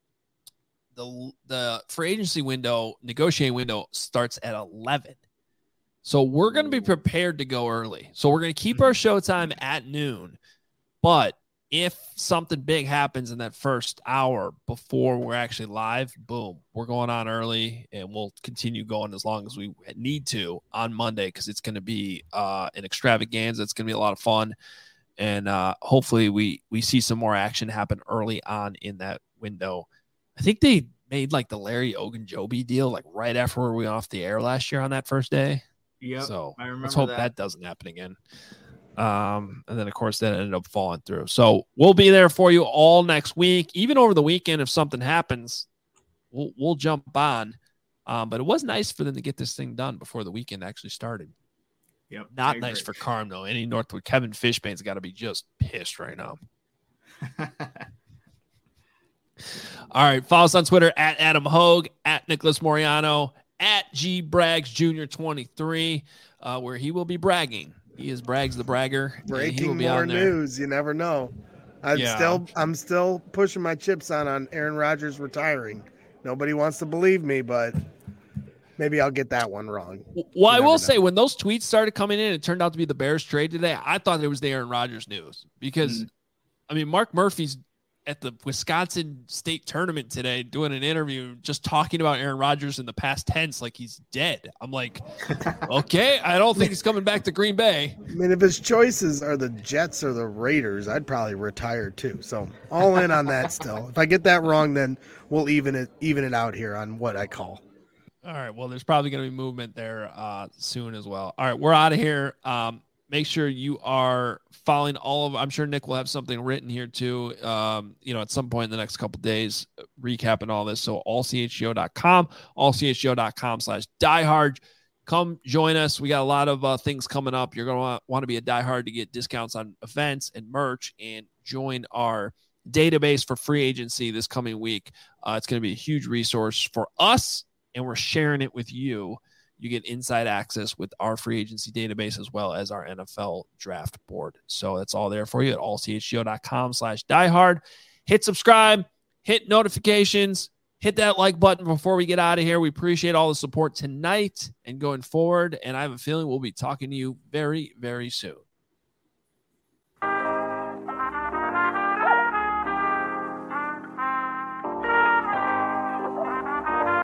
the free agency window, negotiating window starts at 11. So we're going to be prepared to go early. So we're going to keep our show time at noon. But if something big happens in that first hour before we're actually live, boom, we're going on early, and we'll continue going as long as we need to on Monday, because it's going to be an extravaganza. It's going to be a lot of fun. And hopefully we see some more action happen early on in that window. I think they made like the Larry Ogunjobi deal like right after we went off the air last year on that first day. Yeah. So I remember let's hope that doesn't happen again. And then, of course, that ended up falling through. So we'll be there for you all next week. Even over the weekend, if something happens, we'll jump on. But it was nice for them to get this thing done before the weekend actually started. Yep. Not nice for Carm, though. Any Northwood Kevin Fishbane's got to be just pissed right now. All right. Follow us on Twitter at Adam Hogue, at Nicholas Moriano, at G Braggs Jr. 23, where he will be bragging. He is Braggs the Bragger. Breaking more news. You never know. I'm still pushing my chips on Aaron Rodgers retiring. Nobody wants to believe me, but maybe I'll get that one wrong. Well, I will say, when those tweets started coming in, it turned out to be the Bears trade today. I thought it was the Aaron Rodgers news because, I mean, Mark Murphy's at the Wisconsin State tournament today doing an interview just talking about Aaron Rodgers in the past tense like he's dead. I'm like, okay, I don't think he's coming back to Green Bay. I mean, if his choices are the Jets or the Raiders, I'd probably retire too. So all in on that still. If I get that wrong, then we'll even it out here on what I call. All right. Well, there's probably going to be movement there soon as well. All right. We're out of here. Make sure you are following all of, I'm sure Nick will have something written here too, at some point in the next couple of days, recapping all this. So allchgo.com, allchgo.com/diehard. Come join us. We got a lot of things coming up. You're going to want to be a diehard to get discounts on events and merch and join our database for free agency this coming week. It's going to be a huge resource for us, and we're sharing it with you. You get inside access with our free agency database as well as our NFL draft board. So that's all there for you at allchgo.com/diehard. Hit subscribe, hit notifications, hit that like button before we get out of here. We appreciate all the support tonight and going forward. And I have a feeling we'll be talking to you very, very soon.